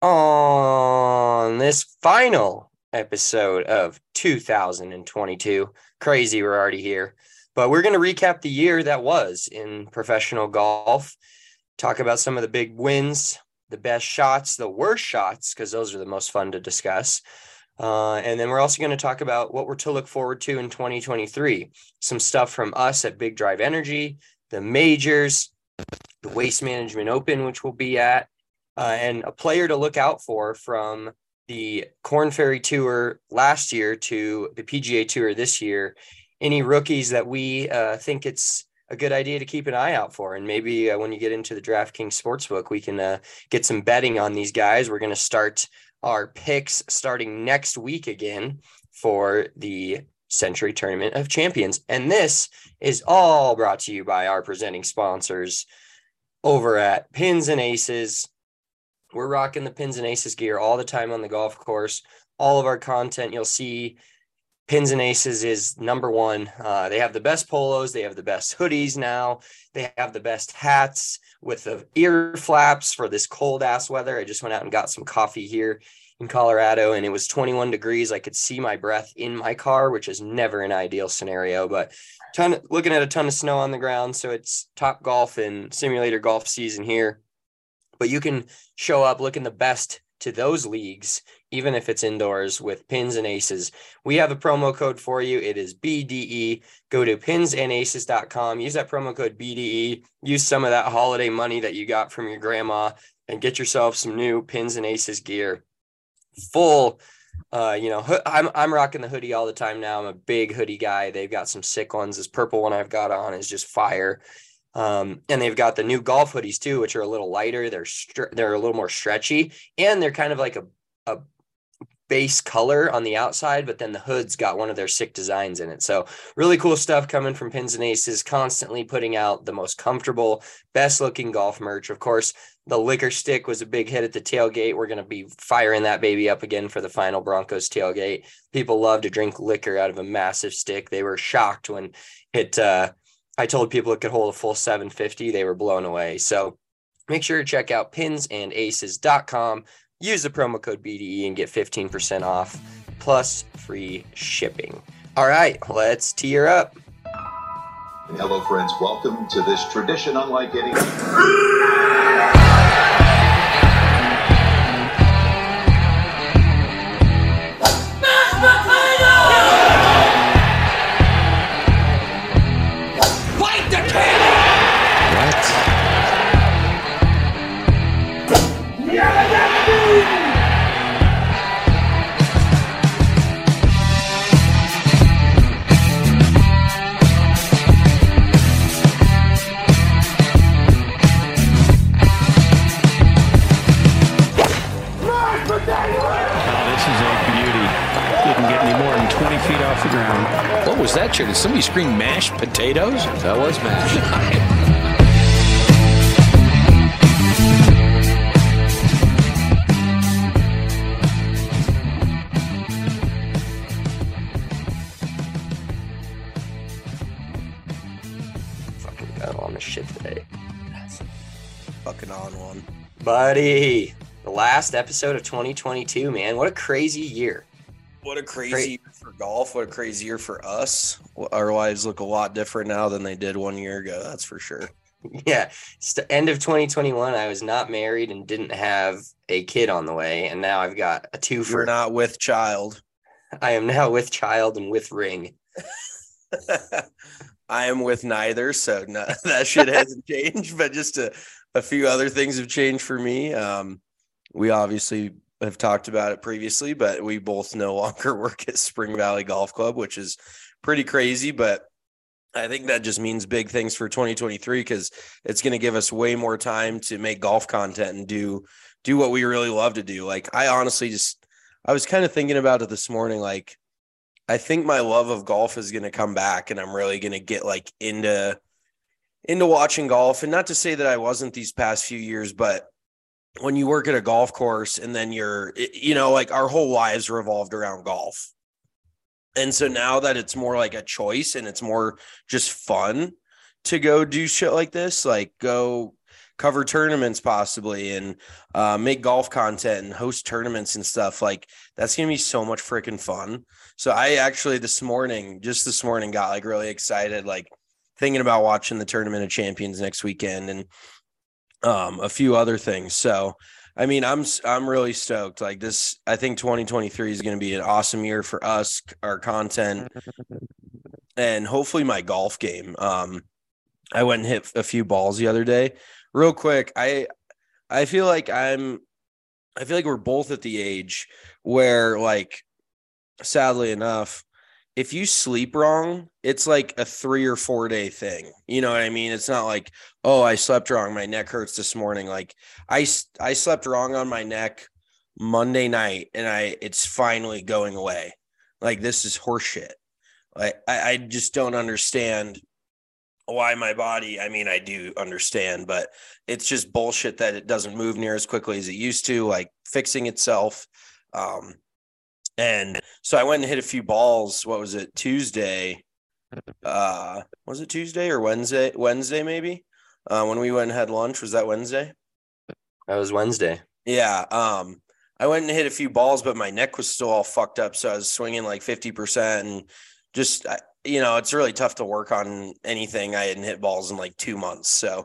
On this final episode of 2022. Crazy, we're already here. But we're going to recap the year that was in professional golf, talk about some of the big wins, the best shots, the worst shots, because those are the most fun to discuss. And then we're also going to talk about what we're to look forward to in 2023. Some stuff from us at Big Drive Energy, the majors, the Waste Management Open, which we'll be at, and a player to look out for from the Corn Ferry Tour last year to the PGA Tour this year. Any rookies that we think it's a good idea to keep an eye out for. And maybe when you get into the DraftKings Sportsbook, we can get some betting on these guys. We're going to start our picks starting next week again for the Century Tournament of Champions. And this is all brought to you by our presenting sponsors over at Pins and Aces. We're rocking the Pins and Aces gear all the time on the golf course. All of our content, you'll see Pins and Aces is number one. They have the best polos. They have the best hoodies now. They have the best hats with the ear flaps for this cold ass weather. I just went out and got some coffee here in Colorado, and it was 21 degrees. I could see my breath in my car, which is never an ideal scenario, but looking at a ton of snow on the ground. So it's Top Golf and simulator golf season here. But you can show up looking the best to those leagues, even if it's indoors, with Pins and Aces. We have a promo code for you. It is BDE. Go to pinsandaces.com. Use that promo code BDE. Use some of that holiday money that you got from your grandma and get yourself some new Pins and Aces gear. Full, I'm rocking the hoodie all the time now. I'm a big hoodie guy. They've got some sick ones. This purple one I've got on is just fire. And they've got the new golf hoodies too, which are a little lighter. They're a little more stretchy, and they're kind of like a base color on the outside, but then the hood's got one of their sick designs in it. So really cool stuff coming from Pins and Aces, constantly putting out the most comfortable, best looking golf merch. Of course, the liquor stick was a big hit at the tailgate. We're going to be firing that baby up again for the final Broncos tailgate. People love to drink liquor out of a massive stick. They were shocked when I told people it could hold a full 750. They were blown away. So make sure to check out pinsandaces.com. Use the promo code BDE and get 15% off plus free shipping. All right, let's tee her up. Hello, friends. Welcome to this tradition unlike any. What was that, Chair? Did somebody scream mashed potatoes? That was mashed. Fucking got on the shit today. Fucking on one. Buddy, the last episode of 2022, man. What a crazy year. What a crazy year for golf. What a crazy year for us. Our lives look a lot different now than they did 1 year ago. That's for sure. Yeah. It's the end of 2021. I was not married and didn't have a kid on the way. And now I've got a twofer. You're not with child. I am now with child and with ring. I am with neither. So no, that shit hasn't changed. But just a few other things have changed for me. We obviously have talked about it previously, but we both no longer work at Spring Valley Golf Club, which is pretty crazy. But I think that just means big things for 2023 because it's going to give us way more time to make golf content and do what we really love to do. Like, I honestly I was kind of thinking about it this morning. Like, I think my love of golf is going to come back and I'm really going to get like into watching golf. And not to say that I wasn't these past few years, but when you work at a golf course and then like our whole lives revolved around golf. And so now that it's more like a choice and it's more just fun to go do shit like this, like go cover tournaments possibly and make golf content and host tournaments and stuff. Like that's going to be so much freaking fun. So I actually this morning got like really excited, like thinking about watching the Tournament of Champions next weekend and a few other things. So, I mean, I'm really stoked. Like this, I think 2023 is going to be an awesome year for us, our content, and hopefully my golf game. I went and hit a few balls the other day. Real quick, I feel like we're both at the age where, like, sadly enough, if you sleep wrong, it's like a 3 or 4 day thing. You know what I mean? It's not like, oh, I slept wrong, my neck hurts this morning. Like I slept wrong on my neck Monday night and it's finally going away. Like this is horseshit. Like I just don't understand why my body, I mean, I do understand, but it's just bullshit that it doesn't move near as quickly as it used to, like fixing itself. And so I went and hit a few balls. What was it? Tuesday. Was it Tuesday or Wednesday? Wednesday, maybe. When we went and had lunch, was that Wednesday? That was Wednesday. Yeah. I went and hit a few balls, but my neck was still all fucked up. So I was swinging like 50% and just, it's really tough to work on anything. I hadn't hit balls in like 2 months. So,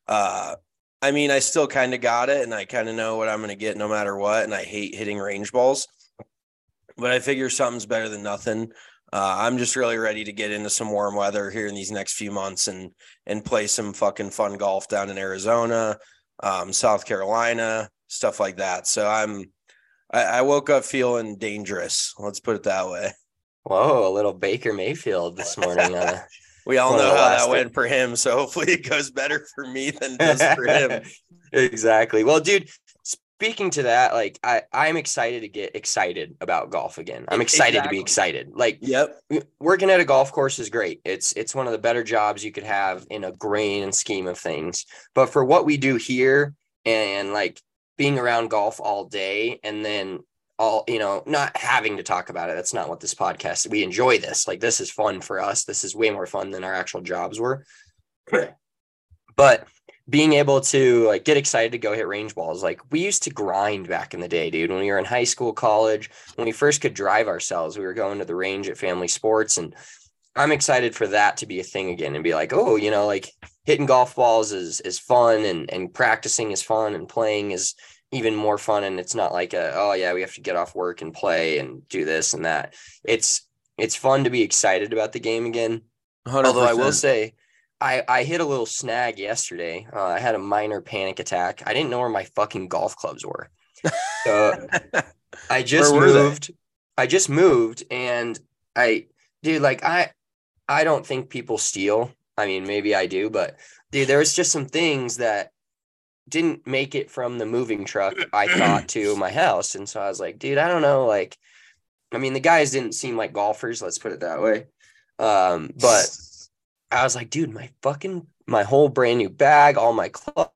I mean, I still kind of got it and I kind of know what I'm going to get no matter what. And I hate hitting range balls, but I figure something's better than nothing. I'm just really ready to get into some warm weather here in these next few months and play some fucking fun golf down in Arizona, South Carolina, stuff like that. So I woke up feeling dangerous. Let's put it that way. Whoa, a little Baker Mayfield this morning. We all know how that went for him. So hopefully it goes better for me than it does for him. Exactly. Well, dude, speaking to that, like I'm excited to get excited about golf again. I'm excited to be excited. Like, yep, working at a golf course is great. It's one of the better jobs you could have in a grand scheme of things. But for what we do here and like being around golf all day and then not having to talk about it. That's not what this podcast, we enjoy this. Like, this is fun for us. This is way more fun than our actual jobs were. But being able to like get excited to go hit range balls. Like we used to grind back in the day, dude, when we were in high school, college, when we first could drive ourselves, we were going to the range at Family Sports. And I'm excited for that to be a thing again and be like, oh, like hitting golf balls is fun and practicing is fun and playing is even more fun. And it's not like we have to get off work and play and do this and that. It's fun to be excited about the game again. 100%. Although I will say I hit a little snag yesterday. I had a minor panic attack. I didn't know where my fucking golf clubs were. So I just moved and I don't think people steal. I mean, maybe I do, but dude, there was just some things that didn't make it from the moving truck, I thought, to my house. And so I was like, dude, I don't know. Like, I mean, the guys didn't seem like golfers, let's put it that way. But I was like, dude, my whole brand new bag, all my clubs,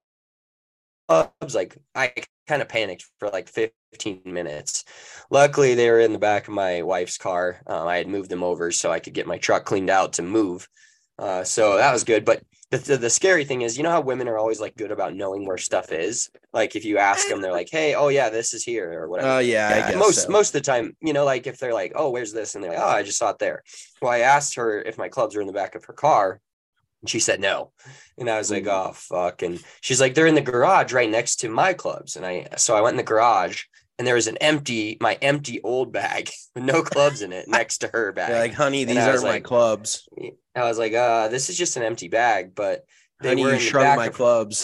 like I kind of panicked for like 15 minutes. Luckily, they were in the back of my wife's car. I had moved them over so I could get my truck cleaned out to move. So that was good. But the scary thing is, how women are always like good about knowing where stuff is. Like if you ask them, they're like, hey, oh yeah, this is here or whatever. Oh yeah. I guess most of the time, like if they're like, oh, where's this? And they're like, oh, I just saw it there. Well, I asked her if my clubs were in the back of her car and she said no. And I was like, oh fuck. And she's like, they're in the garage right next to my clubs. And so I went in the garage and there was my empty old bag with no clubs in it next to her bag. You're like, honey, these aren't my clubs. I was like, this is just an empty bag, but honey, you shrunk my clubs.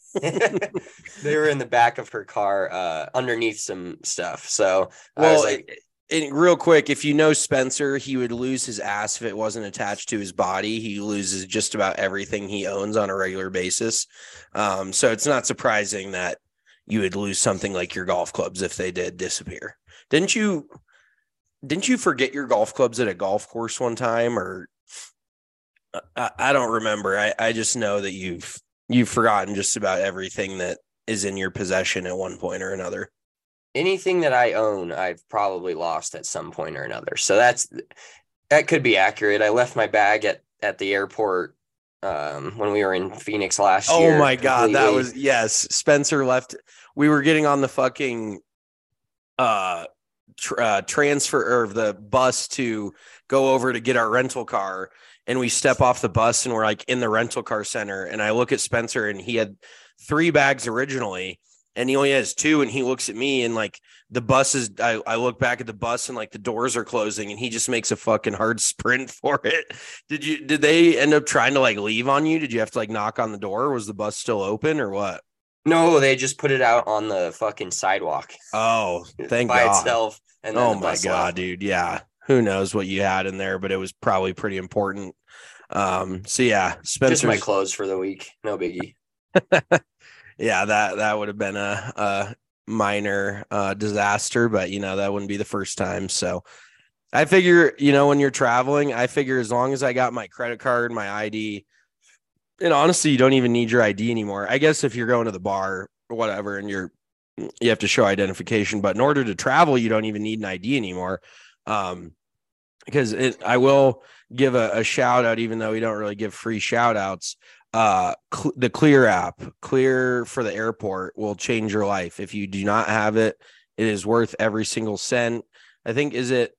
They were in the back of her car, underneath some stuff. So I was like, real quick, if you know Spencer, he would lose his ass if it wasn't attached to his body. He loses just about everything he owns on a regular basis. So it's not surprising that you would lose something like your golf clubs if they did disappear. Didn't you forget your golf clubs at a golf course one time? Or I don't remember. I just know that you've forgotten just about everything that is in your possession at one point or another. Anything that I own, I've probably lost at some point or another. So that could be accurate. I left my bag at the airport when we were in Phoenix last Oh year. my God. That completely. was, yes. Spencer left. We were getting on the fucking transfer or the bus to go over to get our rental car. And we step off the bus and we're like in the rental car center. And I look at Spencer and he had 3 bags originally and he only has 2. And he looks at me and like the bus is, I look back at the bus and like the doors are closing and he just makes a fucking hard sprint for it. Did they end up trying to like leave on you? Did you have to like knock on the door? Was the bus still open or what? No, they just put it out on the fucking sidewalk Oh, thank by God. itself. And then Oh the my bus God, left. dude. Yeah. Who knows what you had in there, but it was probably pretty important. So yeah, Just my Spencer's, clothes for the week. No biggie. yeah, that would have been a minor disaster, but you know, that wouldn't be the first time. So I figure, you know, when you're traveling, I figure as long as I got my credit card, my ID, and honestly, you don't even need your ID anymore. I guess if you're going to the bar or whatever and you have to show identification, but in order to travel, you don't even need an ID anymore. Um, because I will give a shout out, even though we don't really give free shout outs. The Clear app, Clear for the airport, will change your life. If you do not have it, it is worth every single cent. I think is it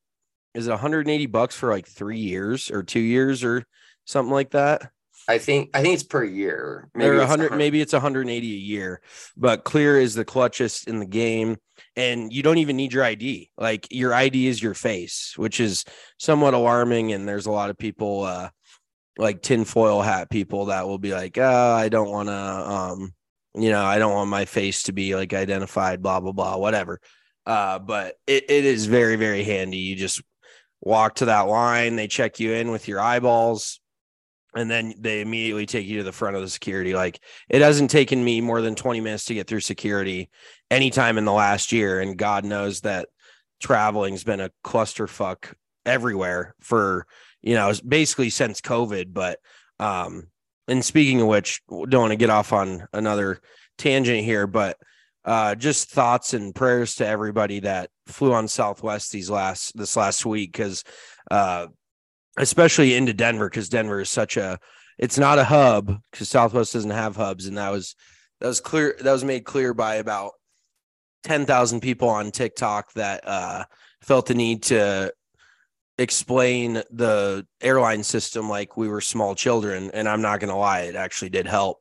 $180 for like 3 years or 2 years or something like that? I think it's per year. Or Maybe it's 100, maybe it's 180 a year, but Clear is the clutchest in the game. And you don't even need your ID. Like your ID is your face, which is somewhat alarming. And there's a lot of people, like tinfoil hat people that will be like, oh, I don't want to, I don't want my face to be like identified, blah, blah, blah, whatever. But it is very, very handy. You just walk to that line. They check you in with your eyeballs. And then they immediately take you to the front of the security. Like it hasn't taken me more than 20 minutes to get through security anytime in the last year. And God knows that traveling's been a clusterfuck everywhere for, basically since COVID. But, and speaking of which, don't want to get off on another tangent here, but just thoughts and prayers to everybody that flew on Southwest this last week. Cause, especially into Denver, because Denver is it's not a hub because Southwest doesn't have hubs. And that was clear. That was made clear by about 10,000 people on TikTok that felt the need to explain the airline system like we were small children. And I'm not going to lie, it actually did help.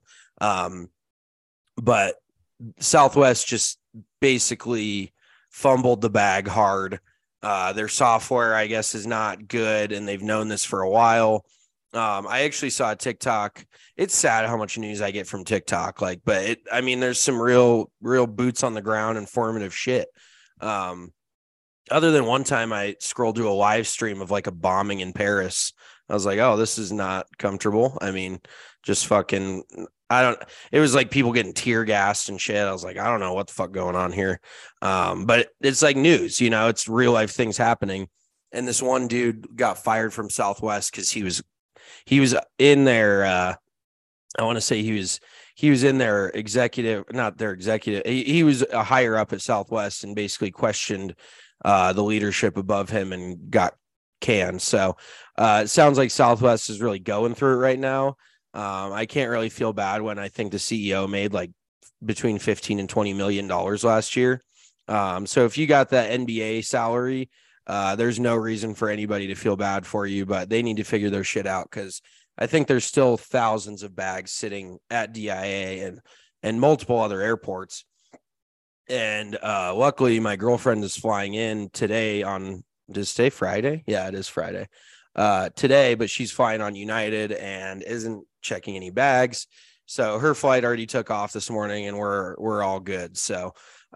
But Southwest just basically fumbled the bag hard. Their software, I guess, is not good, and they've known this for a while. I actually saw a TikTok. It's sad how much news I get from TikTok, but there's some real boots on the ground, informative shit. Other than one time I scrolled through a live stream of like a bombing in Paris. I was like, oh, this is not comfortable. Just fucking, it was like people getting tear gassed and shit. I was like, I don't know what the fuck going on here. But it's like news, it's real life things happening. And this one dude got fired from Southwest because he was in their, I want to say he was in their executive, not their executive. He was a higher up at Southwest and basically questioned the leadership above him and got canned. So it sounds like Southwest is really going through it right now. I can't really feel bad when I think the CEO made like between 15 and $20 million last year. So if you got that NBA salary, there's no reason for anybody to feel bad for you, but they need to figure their shit out. Cause I think there's still thousands of bags sitting at DIA and multiple other airports. And, luckily my girlfriend is flying in today does today Friday? Yeah, it is Friday. Today, but she's flying on United and isn't checking any bags. So her flight already took off this morning and we're all good. So,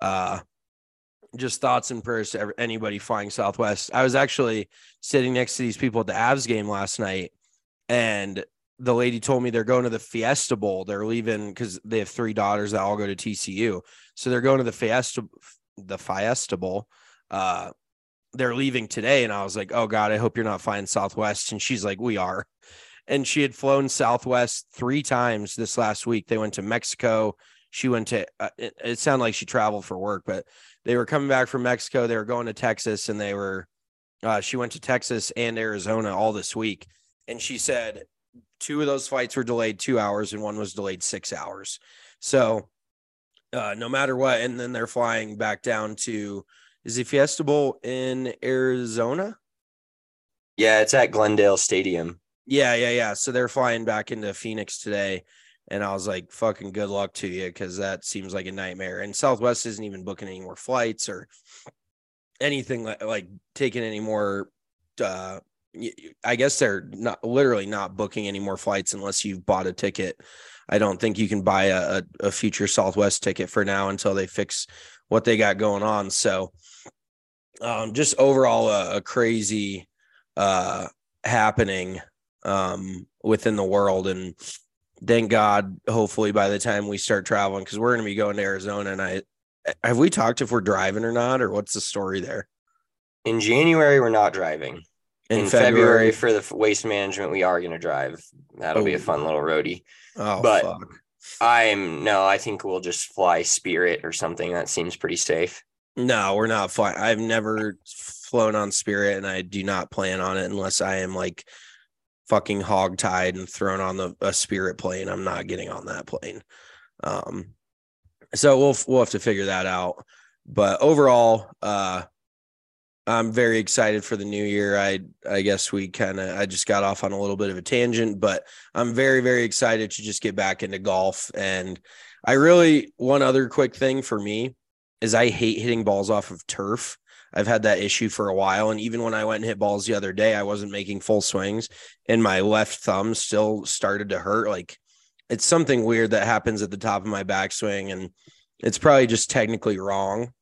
just thoughts and prayers to anybody flying Southwest. I was actually sitting next to these people at the Avs game last night, and the lady told me they're going to the Fiesta Bowl. They're leaving because they have 3 daughters that all go to TCU. So they're going to the Fiesta Bowl. They're leaving today. And I was like, oh God, I hope you're not flying Southwest. And she's like, we are. And she had flown Southwest 3 times this last week. They went to Mexico. She went to, it sounded like she traveled for work, but they were coming back from Mexico. They were going to Texas, and she went to Texas and Arizona all this week. And she said two of those flights were delayed 2 hours and one was delayed 6 hours. So no matter what, and then they're flying back down to, is it Fiesta Bowl in Arizona? Yeah, it's at Glendale Stadium. Yeah. So they're flying back into Phoenix today. And I was like, fucking good luck to you, because that seems like a nightmare. And Southwest isn't even booking any more flights or anything like taking any more. I guess they're literally not booking any more flights unless you've bought a ticket. I don't think you can buy a future Southwest ticket for now until they fix what they got going on. So just overall a crazy happening within the world. And thank God, hopefully by the time we start traveling, because we're going to be going to Arizona. And have we talked if we're driving or not, or what's the story there? In January, we're not driving. In February for the Waste Management, we are going to drive. That'll be a fun little roadie. Oh, but fuck. I think we'll just fly Spirit or something. That seems pretty safe. No, we're not flying. I've never flown on Spirit, and I do not plan on it unless I am like fucking hogtied and thrown on a Spirit plane. I'm not getting on that plane. So we'll have to figure that out. But overall, I'm very excited for the new year. I guess I just got off on a little bit of a tangent, but I'm very, very excited to just get back into golf. And one other quick thing for me is I hate hitting balls off of turf. I've had that issue for a while. And even when I went and hit balls the other day, I wasn't making full swings and my left thumb still started to hurt. Like, it's something weird that happens at the top of my backswing, and it's probably just technically wrong.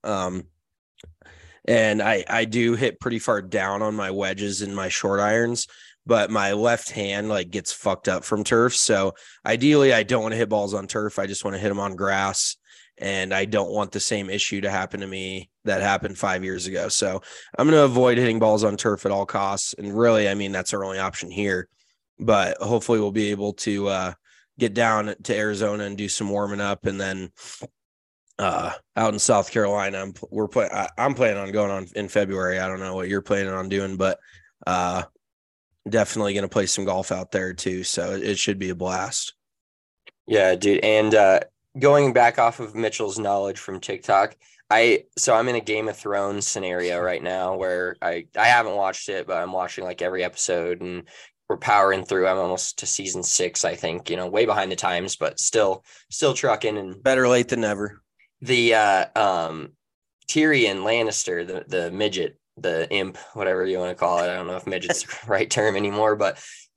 And I do hit pretty far down on my wedges and my short irons, but my left hand like gets fucked up from turf. So ideally I don't want to hit balls on turf. I just want to hit them on grass, and I don't want the same issue to happen to me that happened 5 years ago. So I'm going to avoid hitting balls on turf at all costs. And really, I mean, that's our only option here, but hopefully we'll be able to get down to Arizona and do some warming up. And then out in South Carolina, I'm planning on going on in February. I don't know what you're planning on doing, but definitely going to play some golf out there too. So it should be a blast. Yeah, dude. And going back off of Mitchell's knowledge from TikTok, I'm in a Game of Thrones scenario right now where I haven't watched it, but I'm watching like every episode, and we're powering through. I'm almost to season 6, I think, way behind the times, but still trucking. And better late than never. The Tyrion Lannister, the midget, the imp, whatever you want to call it. I don't know if midget's the right term anymore, but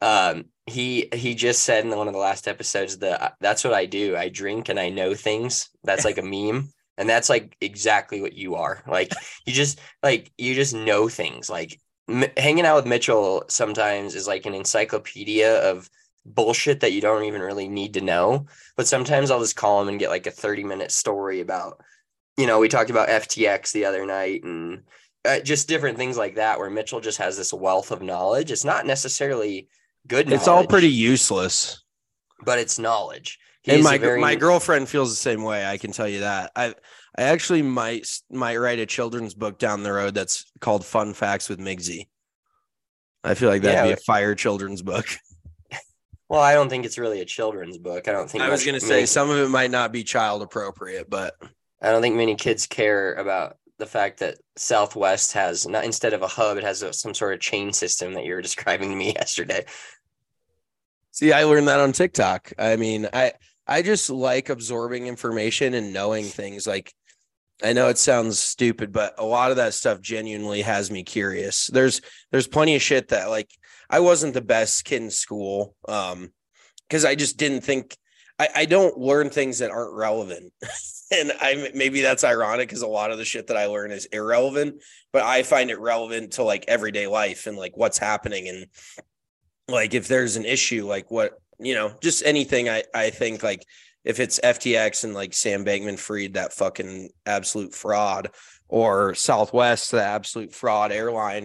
he just said in one of the last episodes that that's what I do. I drink and I know things. That's like a meme. And that's like exactly what you are. Like you just know things. Like hanging out with Mitchell sometimes is like an encyclopedia of bullshit that you don't even really need to know. But sometimes I'll just call him and get like a 30-minute story about, we talked about FTX the other night and just different things like that, where Mitchell just has this wealth of knowledge. It's not necessarily good knowledge. It's all pretty useless, but it's knowledge. And my girlfriend feels the same way. I can tell you that. I actually might write a children's book down the road that's called Fun Facts with Migsy. I feel like that'd be a fire children's book. Well, I don't think it's really a children's book. I was going to say some of it might not be child appropriate, but I don't think many kids care about the fact that Southwest has instead of a hub, it has some sort of chain system that you were describing to me yesterday. See, I learned that on TikTok. I mean, I just like absorbing information and knowing things. Like, I know it sounds stupid, but a lot of that stuff genuinely has me curious. There's plenty of shit that like I wasn't the best kid in school because I just didn't think I don't learn things that aren't relevant. And maybe that's ironic because a lot of the shit that I learn is irrelevant, but I find it relevant to like everyday life and like what's happening. And like if there's an issue, like what, just anything, I think like if it's FTX and like Sam Bankman-Fried, that fucking absolute fraud, or Southwest, the absolute fraud airline.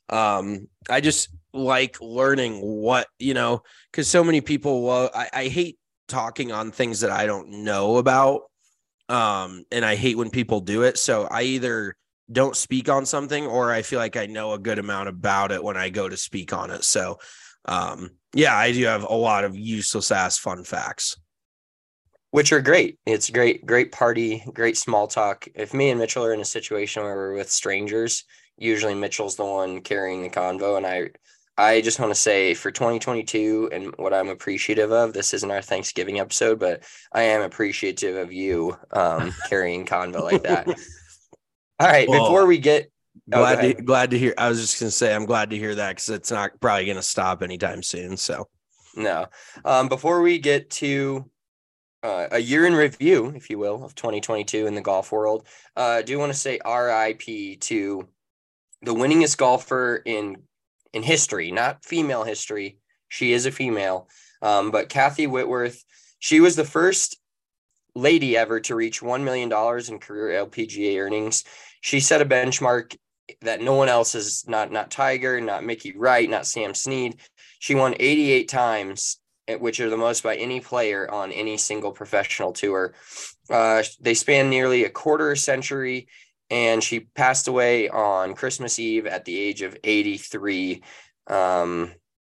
I just like learning what, because so many people, I hate talking on things that I don't know about. And I hate when people do it. So I either don't speak on something or I feel like I know a good amount about it when I go to speak on it. So Yeah, I do have a lot of useless ass fun facts. Which are great. It's great party, great small talk. If me and Mitchell are in a situation where we're with strangers, usually Mitchell's the one carrying the convo. And I just want to say for 2022 and what I'm appreciative of, this isn't our Thanksgiving episode, but I am appreciative of you carrying convo like that. All right, Well, before we get glad to hear. I was just gonna say I'm glad to hear that because it's not probably gonna stop anytime soon. So no, before we get to a year in review, if you will, of 2022 in the golf world, I do want to say RIP to the winningest golfer in history, not female history. She is a female, but Kathy Whitworth. She was the first lady ever to reach $1 million in career LPGA earnings. She set a benchmark that no one else has, not Tiger, not Mickey Wright, not Sam Snead. She won 88 times, which are the most by any player on any single professional tour. They span nearly a quarter century, and she passed away on Christmas Eve at the age of 83. Wow,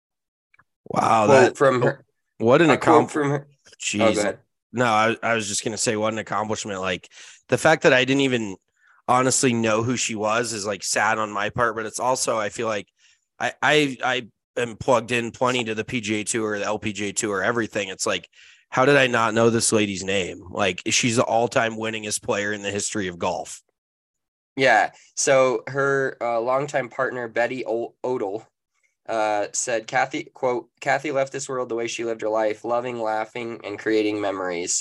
Quote from her. What an accomplishment from her. Jeez. Oh, go ahead. No, I was just gonna say what an accomplishment. Like the fact that I didn't even honestly know who she was is like sad on my part, but it's also I feel like I am plugged in plenty to the PGA Tour, the LPGA Tour, everything. It's like, how did I not know this lady's name? Like she's the all-time winningest player in the history of golf. Yeah. So her longtime partner Betty Odell said, Kathy left this world the way she lived her life, loving, laughing, and creating memories.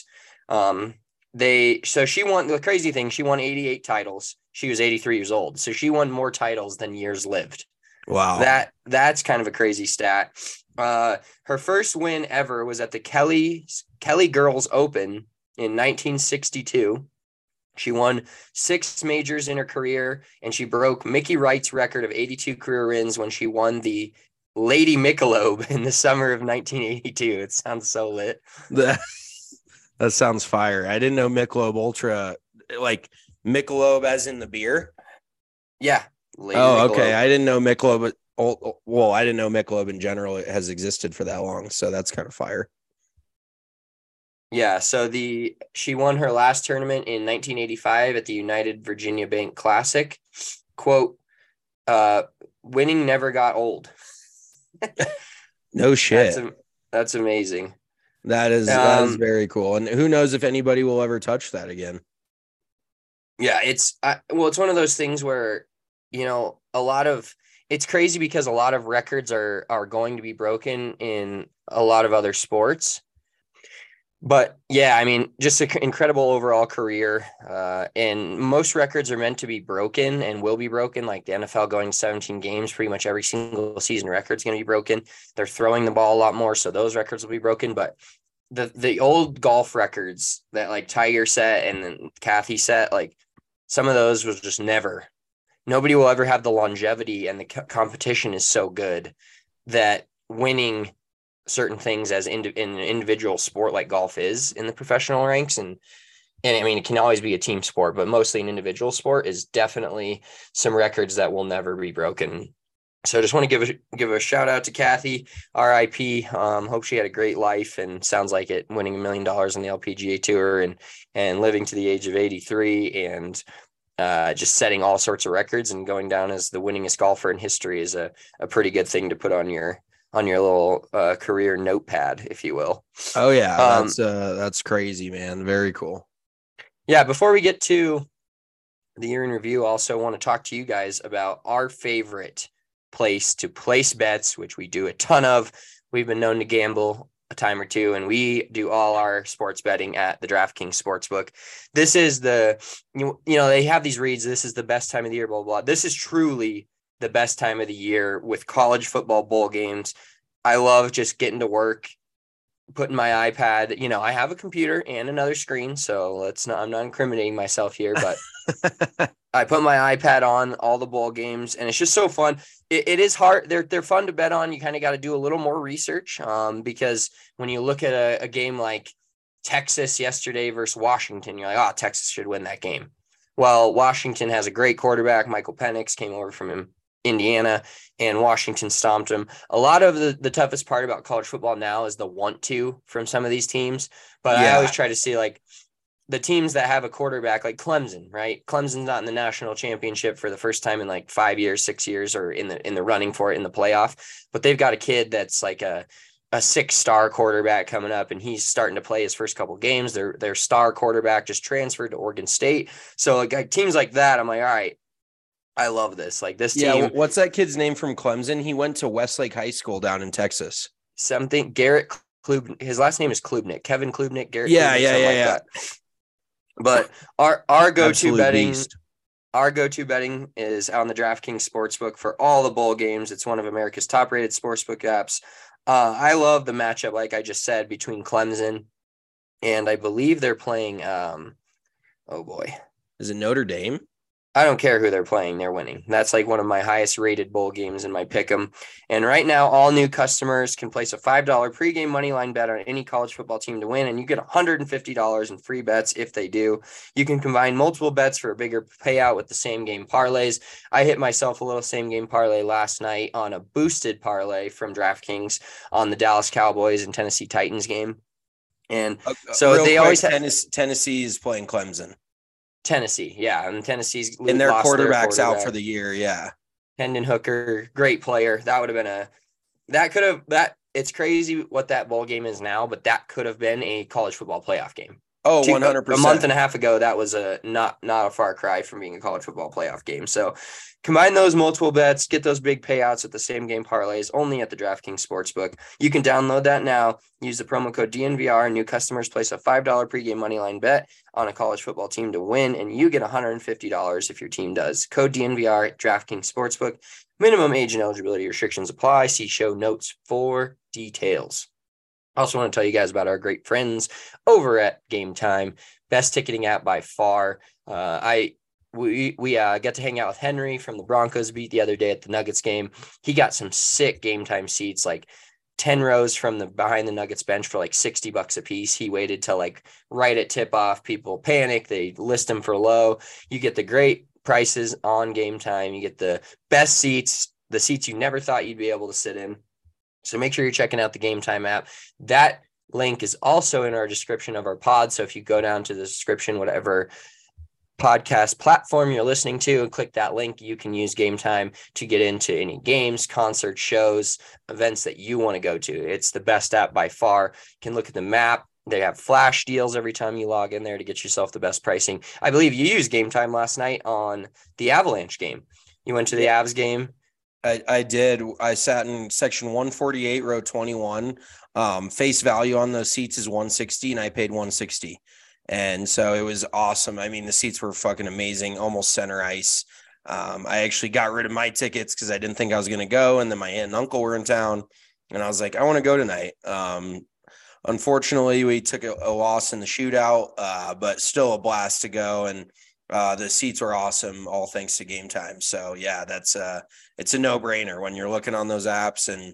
So she won, the crazy thing, she won 88 titles. She was 83 years old. So she won more titles than years lived. Wow. That's kind of a crazy stat. Her first win ever was at the Kelly Girls Open in 1962. She won 6 majors in her career, and she broke Mickey Wright's record of 82 career wins when she won the Lady Michelob in the summer of 1982. It sounds so lit. That sounds fire. I didn't know Michelob Ultra, like Michelob as in the beer. Yeah. Lady Michelob. Okay. I didn't know Michelob. Well, I didn't know Michelob in general has existed for that long, so that's kind of fire. Yeah, so she won her last tournament in 1985 at the United Virginia Bank Classic. Quote, winning never got old. No shit. That's amazing. That is very cool. And who knows if anybody will ever touch that again. Yeah, it's one of those things where, it's crazy because a lot of records are going to be broken in a lot of other sports. But yeah, I mean, just an incredible overall career. And most records are meant to be broken and will be broken. Like the NFL going 17 games, pretty much every single season record's going to be broken. They're throwing the ball a lot more, so those records will be broken. But the old golf records that like Tiger set and then Kathy set, like some of those was just nobody will ever have the longevity, and the competition is so good that winning certain things as in an individual sport like golf is in the professional ranks. And I mean, it can always be a team sport, but mostly an individual sport is definitely some records that will never be broken. So I just want to give a shout out to Kathy, RIP. Hope she had a great life, and sounds like it, winning $1 million in the LPGA Tour and living to the age of 83 and just setting all sorts of records and going down as the winningest golfer in history is a pretty good thing to put on your little career notepad, if you will. Oh yeah. That's crazy, man. Very cool. Yeah. Before we get to the year in review, I also want to talk to you guys about our favorite place to place bets, which we do a ton of. We've been known to gamble a time or two, and we do all our sports betting at the DraftKings Sportsbook. This is they have these reads. This is the best time of the year, blah, blah, blah. This is truly the best time of the year with college football bowl games. I love just getting to work, putting my iPad, I have a computer and another screen, so I'm not incriminating myself here, but I put my iPad on all the bowl games, and it's just so fun. It is hard. They're fun to bet on. You kind of got to do a little more research because when you look at a game like Texas yesterday versus Washington, you're like, oh, Texas should win that game. Well, Washington has a great quarterback. Michael Penix came over from Indiana, and Washington stomped them. A lot of the toughest part about college football now is the want to from some of these teams. But I always try to see like the teams that have a quarterback like Clemson, right? Clemson's not in the national championship for the first time in like 5 years, 6 years, or in the running for it in the playoff. But they've got a kid that's like a 6-star quarterback coming up, and he's starting to play his first couple games. Their star quarterback just transferred to Oregon State. So like teams like that, I'm like, all right, I love this. Like this team. Yeah, what's that kid's name from Clemson? He went to Westlake High School down in Texas. Something Garrett Klub. His last name is Klubnik. Kevin Klubnik. Garrett. Yeah, Klubnik, yeah. Like but our go-to Absolute betting. beast. Our go-to betting is on the DraftKings Sportsbook for all the bowl games. It's one of America's top-rated sportsbook apps. I love the matchup, like I just said, between Clemson and I believe they're playing. Oh boy, Is it Notre Dame? I don't care who they're playing. They're winning. That's like one of my highest rated bowl games in my pick'em. And right now, all new customers can place a $5 pregame moneyline bet on any college football team to win, and you get $150 in free bets if they do. You can combine multiple bets for a bigger payout with the same game parlays. I hit myself a little same game parlay last night on a boosted parlay from DraftKings on the Dallas Cowboys and Tennessee Titans game. And so they always have Tennessee is playing Clemson. Tennessee, yeah, and Tennessee's And their lost quarterback's their out for the year, yeah. Hendon Hooker, great player. That would have been it's crazy what that bowl game is now, but that could have been a college football playoff game. Oh, 100%. A month and a half ago, that was not a far cry from being a college football playoff game. So combine those multiple bets, get those big payouts at the same game parlays only at the DraftKings Sportsbook. You can download that now. Use the promo code DNVR. New customers place a $5 pregame moneyline bet on a college football team to win, and you get $150 if your team does. Code DNVR at DraftKings Sportsbook. Minimum age and eligibility restrictions apply. See show notes for details. I also want to tell you guys about our great friends over at Game Time, best ticketing app by far. We got to hang out with Henry from the Broncos beat the other day at the Nuggets game. He got some sick Game Time seats, like 10 rows from the behind the Nuggets bench for like $60 a piece. He waited till like right at tip off. People panic. They list them for low. You get the great prices on Game Time. You get the best seats, the seats you never thought you'd be able to sit in. So make sure you're checking out the Game Time app. That link is also in our description of our pod. So if you go down to the description, whatever podcast platform you're listening to, and click that link, you can use Game Time to get into any games, concerts, shows, events that you want to go to. It's the best app by far. You can look at the map. They have flash deals every time you log in there to get yourself the best pricing. I believe you used Game Time last night on the Avalanche game. You went to the Avs game. I did. I sat in section 148, row 21. Face value on those seats is $160, and I paid $160. And so it was awesome. I mean, the seats were fucking amazing, almost center ice. I actually got rid of my tickets because I didn't think I was going to go. And then my aunt and uncle were in town, and I was like, I want to go tonight. Unfortunately, we took a loss in the shootout, but still a blast to go. And the seats were awesome, all thanks to Game Time. So yeah, it's a no-brainer when you're looking on those apps and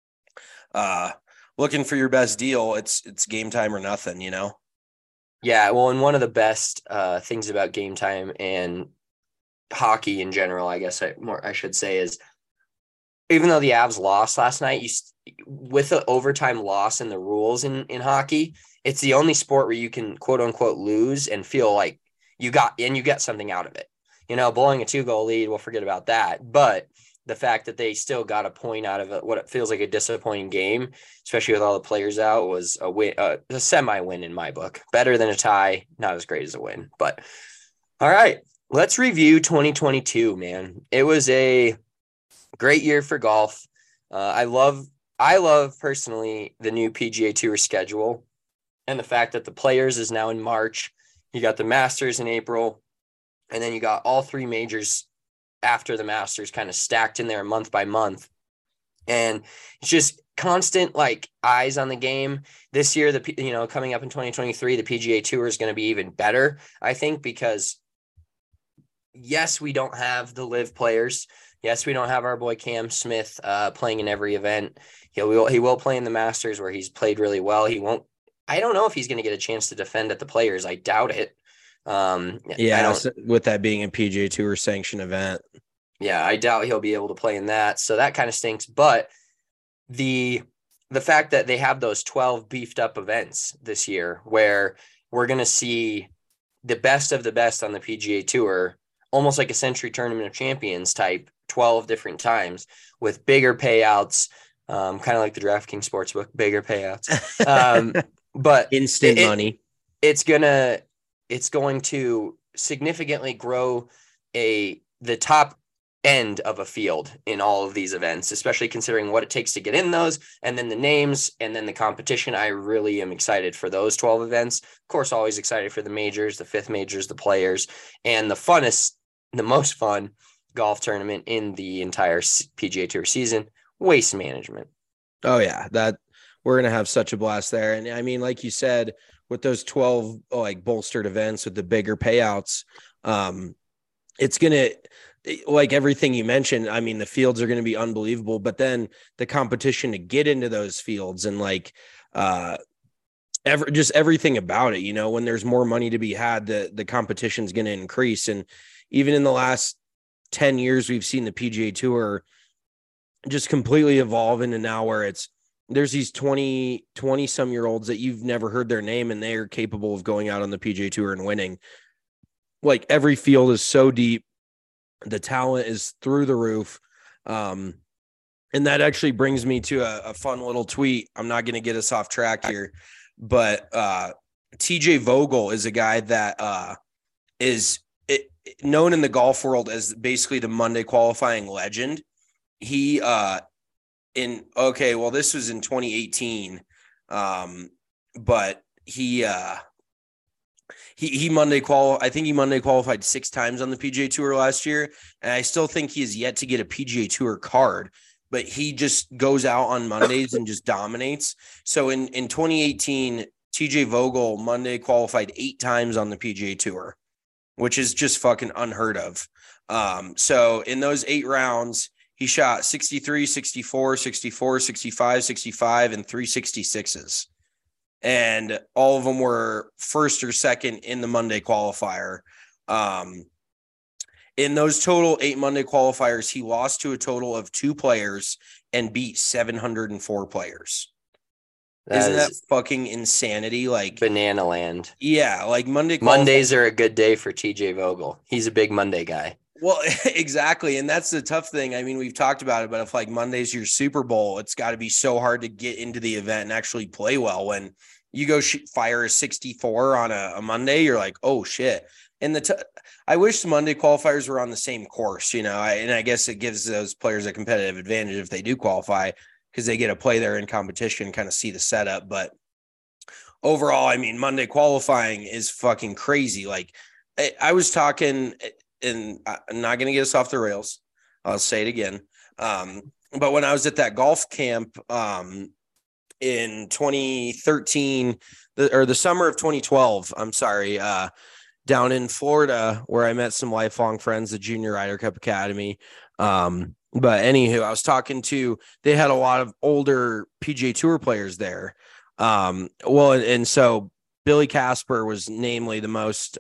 looking for your best deal. It's Game Time or nothing, you know? Yeah, well, and one of the best things about Game Time and hockey in general, I guess I should say, is even though the Avs lost last night, with the overtime loss in the rules in hockey, it's the only sport where you can quote unquote lose and feel like you get something out of it. You know, blowing a 2-goal lead, we'll forget about that. But the fact that they still got a point out of it, what it feels like a disappointing game, especially with all the players out, was a win, a semi-win in my book. Better than a tie, not as great as a win. But all right, let's review 2022, man. It was a great year for golf. I love personally the new PGA Tour schedule and the fact that the Players is now in March. You got the Masters in April, and then you got all three majors after the Masters kind of stacked in there month by month. And it's just constant like eyes on the game this year. Coming up in 2023, the PGA Tour is going to be even better, I think, because yes, we don't have the live players. Yes, we don't have our boy Cam Smith playing in every event. He will play in the Masters where he's played really well. I don't know if he's going to get a chance to defend at the Players. I doubt it. With that being a PGA Tour sanctioned event. Yeah, I doubt he'll be able to play in that. So that kind of stinks. But the fact that they have those 12 beefed up events this year where we're going to see the best of the best on the PGA Tour, almost like a Century Tournament of Champions type, 12 different times with bigger payouts, kind of like the DraftKings Sportsbook, bigger payouts. But instant money. It's going to significantly grow the top end of a field in all of these events, especially considering what it takes to get in those, and then the names, and then the competition. I really am excited for those 12 events. Of course, always excited for the majors, the fifth majors, the players, and the most fun golf tournament in the entire PGA Tour season, Waste Management. Oh yeah, that we're going to have such a blast there. And I mean, like you said, with those 12 like bolstered events with the bigger payouts, it's going to, like everything you mentioned, I mean, the fields are going to be unbelievable, but then the competition to get into those fields and like just everything about it, you know, when there's more money to be had, the competition is going to increase. And even in the last 10 years, we've seen the PGA Tour just completely evolve into now where there's these 20 some year olds that you've never heard their name and they are capable of going out on the PGA Tour and winning. Like every field is so deep. The talent is through the roof. And that actually brings me to a fun little tweet. I'm not going to get us off track here, but TJ Vogel is a guy that is known in the golf world as basically the Monday qualifying legend. He this was in 2018. But he Monday qualified 6 times on the PGA Tour last year, and I still think he has yet to get a PGA Tour card, but he just goes out on Mondays and just dominates. So in 2018, TJ Vogel Monday qualified 8 times on the PGA Tour, which is just fucking unheard of. So in those 8 rounds, he shot 63, 64, 64, 65, 65, and 366s. And all of them were first or second in the Monday qualifier. In those total 8 Monday qualifiers, he lost to a total of 2 players and beat 704 players. Isn't that fucking insanity? Like banana land. Yeah, like Mondays are a good day for TJ Vogel. He's a big Monday guy. Well, exactly. And that's the tough thing. I mean, we've talked about it, but if like Monday's your Super Bowl, it's got to be so hard to get into the event and actually play well. When you go fire a 64 on a Monday, you're like, oh shit. And I wish the Monday qualifiers were on the same course, you know, and I guess it gives those players a competitive advantage if they do qualify because they get to play there in competition, kind of see the setup. But overall, I mean, Monday qualifying is fucking crazy. Like I was talking, and I'm not going to get us off the rails. I'll say it again. But when I was at that golf camp in 2013, the summer of 2012, I'm sorry, down in Florida, where I met some lifelong friends, the Junior Ryder Cup Academy. But anywho, I was talking to, they had a lot of older PGA Tour players there. And so Billy Casper was namely the most,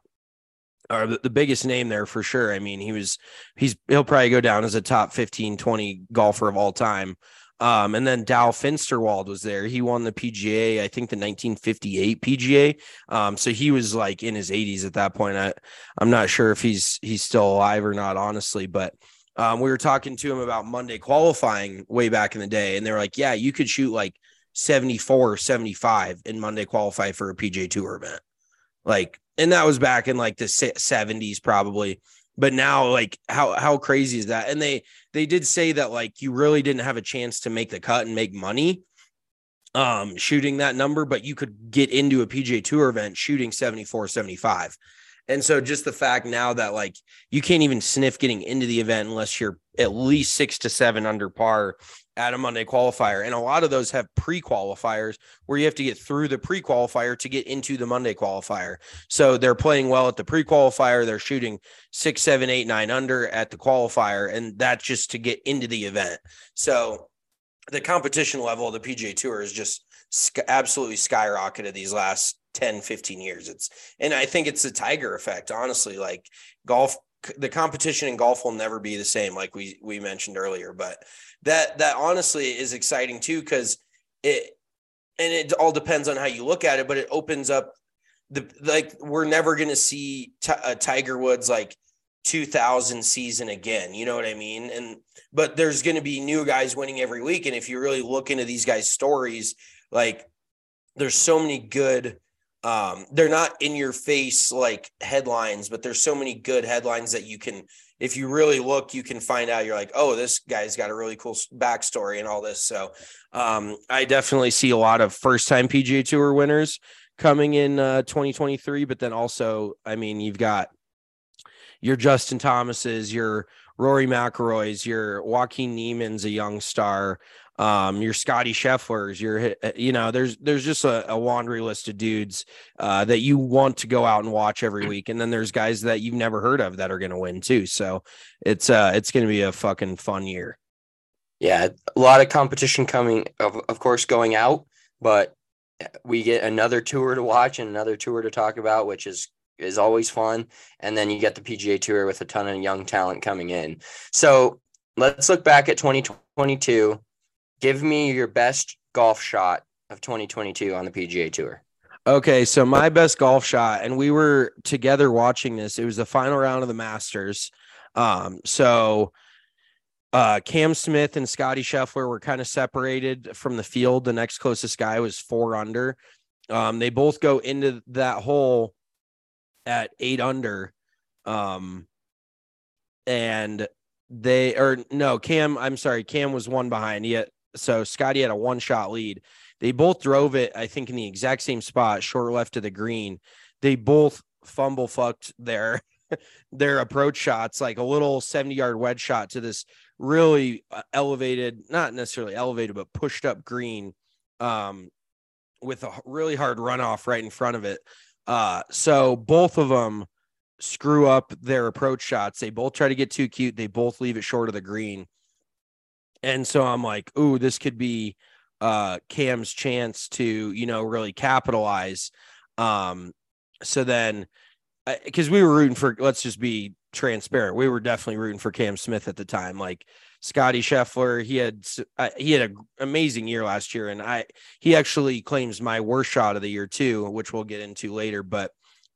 or the biggest name there for sure. I mean, he'll probably go down as a top 15, 20 golfer of all time. And then Dow Finsterwald was there. He won the PGA, I think the 1958 PGA. So he was like in his 80s at that point. I'm not sure if he's still alive or not, honestly, but we were talking to him about Monday qualifying way back in the day. And they were like, yeah, you could shoot like 74 or 75 in Monday qualify for a PGA Tour event. Like, and that was back in like the 70s probably. But now, like, how crazy is that? And they did say that, like, you really didn't have a chance to make the cut and make money shooting that number, but you could get into a PGA Tour event shooting 74, 75. And so just the fact now that, like, you can't even sniff getting into the event unless you're at least 6 to 7 under par at a Monday qualifier. And a lot of those have pre-qualifiers where you have to get through the pre-qualifier to get into the Monday qualifier. So they're playing well at the pre-qualifier. They're shooting 6, 7, 8, 9 under at the qualifier. And that's just to get into the event. So the competition level of the PGA Tour is just absolutely skyrocketed these last 10, 15 years. And I think it's the Tiger effect, honestly. Like, golf the competition in golf will never be the same, like we mentioned earlier. But that honestly is exciting too, because it all depends on how you look at it, but it opens up we're never going to see Tiger Woods like 2000 season again. You know what I mean? But there's going to be new guys winning every week. And if you really look into these guys' stories, like there's so many good, they're not in your face like headlines, but there's so many good headlines that you can, if you really look, you can find out. You're like, oh, this guy's got a really cool backstory and all this. So I definitely see a lot of first-time PGA Tour winners coming in 2023, but then also, I mean, you've got your Justin Thomases, your Rory McIlroys, your Joaquin Niemann's a young star, your Scotty Schefflers, there's just a laundry list of dudes that you want to go out and watch every week. And then there's guys that you've never heard of that are going to win too. So it's going to be a fucking fun year. Yeah. A lot of competition coming, of course, going out, but we get another tour to watch and another tour to talk about, which is always fun. And then you get the PGA Tour with a ton of young talent coming in. So let's look back at 2022. Give me your best golf shot of 2022 on the PGA Tour. Okay, so my best golf shot, and we were together watching this. It was the final round of the Masters. Cam Smith and Scotty Scheffler were kind of separated from the field. The next closest guy was 4 under. They both go into that hole at 8 under. Cam was 1 behind. So Scotty had a 1-shot lead. They both drove it, I think, in the exact same spot, short left of the green. They both fumble fucked their approach shots, like a little 70-yard wedge shot to this really elevated, not necessarily elevated, but pushed up green with a really hard runoff right in front of it. So both of them screw up their approach shots. They both try to get too cute. They both leave it short of the green. And so I'm like, ooh, this could be Cam's chance to, really capitalize. So then, because we were rooting for, let's just be transparent, we were definitely rooting for Cam Smith at the time. Like Scotty Scheffler, he had an amazing year last year, and he actually claims my worst shot of the year too, which we'll get into later. But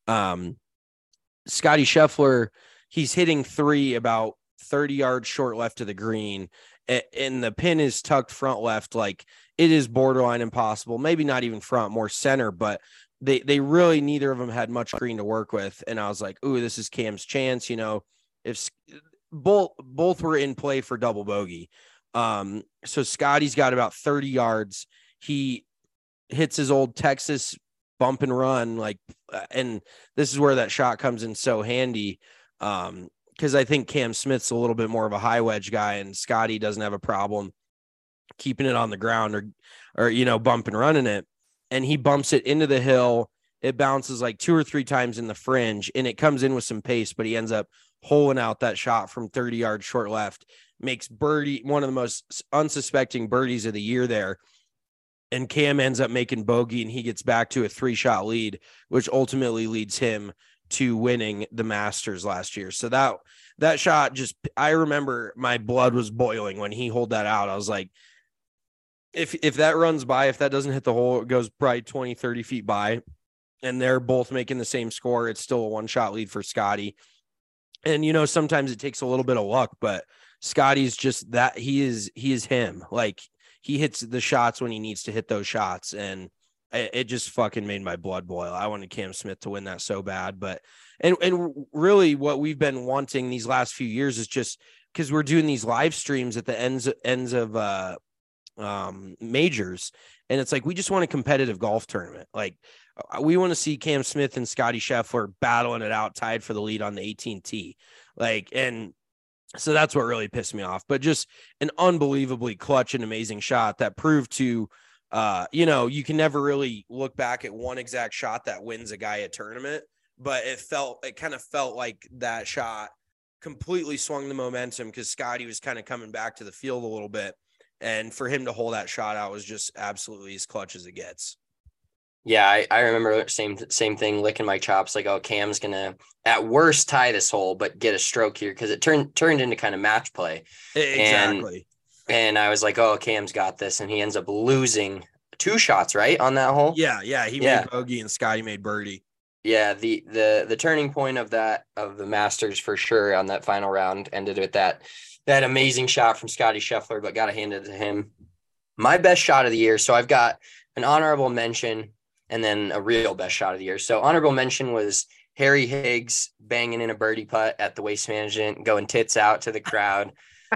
Scotty Scheffler, he's hitting 3 about 30 yards short left of the green, and the pin is tucked front left. Like it is borderline impossible, maybe not even front, more center, but they really, neither of them had much green to work with. And I was like, ooh, this is Cam's chance. If both were in play for double bogey. So Scotty's got about 30 yards. He hits his old Texas bump and run, and this is where that shot comes in so handy. Because I think Cam Smith's a little bit more of a high wedge guy, and Scotty doesn't have a problem keeping it on the ground or bump and running it. And he bumps it into the hill. It bounces like 2 or 3 times in the fringe, and it comes in with some pace, but he ends up holing out that shot from 30 yards short left, makes birdie, one of the most unsuspecting birdies of the year there. And Cam ends up making bogey, and he gets back to a 3-shot lead, which ultimately leads him to winning the Masters last year. So that shot, I remember my blood was boiling when he holed that out. I was like, if that runs by, if that doesn't hit the hole, it goes probably 20, 30 feet by, and they're both making the same score, it's still a 1-shot lead for Scotty. And, sometimes it takes a little bit of luck, but Scotty's just that he is him. Like he hits the shots when he needs to hit those shots. And it just fucking made my blood boil. I wanted Cam Smith to win that so bad, but, and really what we've been wanting these last few years is just because we're doing these live streams at the ends of, majors, and it's like we just want a competitive golf tournament. Like we want to see Cam Smith and Scotty Scheffler battling it out, tied for the lead on the 18th tee. And so that's what really pissed me off. But just an unbelievably clutch and amazing shot that proved to you can never really look back at one exact shot that wins a guy a tournament, but it kind of felt like that shot completely swung the momentum because Scotty was kind of coming back to the field a little bit. And for him to hold that shot out was just absolutely as clutch as it gets. Yeah, I remember same thing, licking my chops like, oh, Cam's gonna at worst tie this hole, but get a stroke here because it turned into kind of match play. And Exactly. and I was like, oh, Cam's got this, and he ends up losing 2 shots, right, on that hole. Yeah. He Yeah. made bogey and Scotty made birdie. Yeah, the turning point of the Masters for sure on that final round ended with that amazing shot from Scotty Scheffler, but gotta hand it to him. My best shot of the year. So I've got an honorable mention and then a real best shot of the year. So honorable mention was Harry Higgs banging in a birdie putt at the Waste Management, going tits out to the crowd.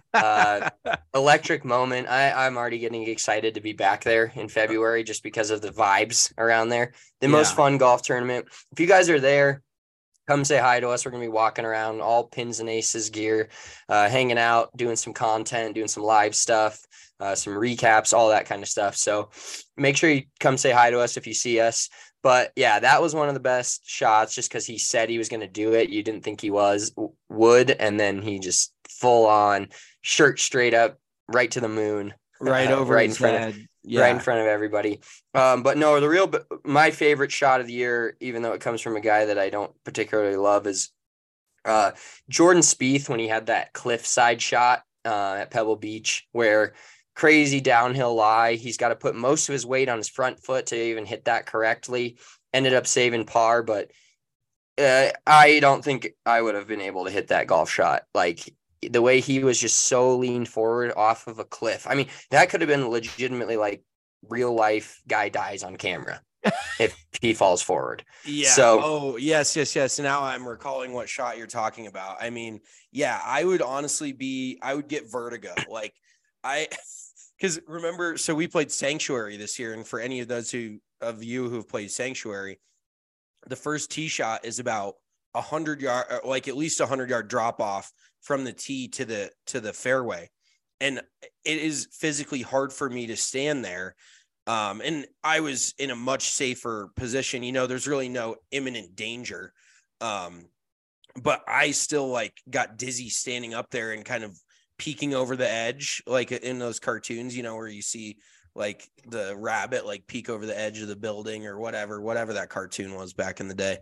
Electric moment. I'm already getting excited to be back there in February just because of the vibes around there. The most fun golf tournament. If you guys are there, come say hi to us. We're going to be walking around all pins and aces gear, hanging out, doing some content, doing some live stuff, some recaps, all that kind of stuff. So make sure you come say hi to us if you see us. But yeah, that was one of the best shots just because he said he was going to do it. You didn't think he would. And then he just full on shirt straight up right to the moon. Right over right his in front head. of right in front of everybody. But no, my favorite shot of the year, even though it comes from a guy that I don't particularly love, is Jordan Spieth when he had that cliffside shot at Pebble Beach where crazy downhill lie. He's got to put most of his weight on his front foot to even hit that correctly. Ended up saving par, but I don't think I would have been able to hit that golf shot. Like the way he was just so leaned forward off of a cliff. I mean, that could have been legitimately like real life guy dies on camera if he falls forward. Yeah. So, yes. Now I'm recalling what shot you're talking about. I mean, yeah, I would get vertigo. Like because remember, so we played Sanctuary this year. And for any of those of you who've played Sanctuary, the first tee shot is about 100 yard, like at least 100-yard drop off from the tee to the fairway. And it is physically hard for me to stand there. And I was in a much safer position. There's really no imminent danger. But I still like got dizzy standing up there and kind of peeking over the edge, like in those cartoons, where you see like the rabbit, like peek over the edge of the building or whatever that cartoon was back in the day.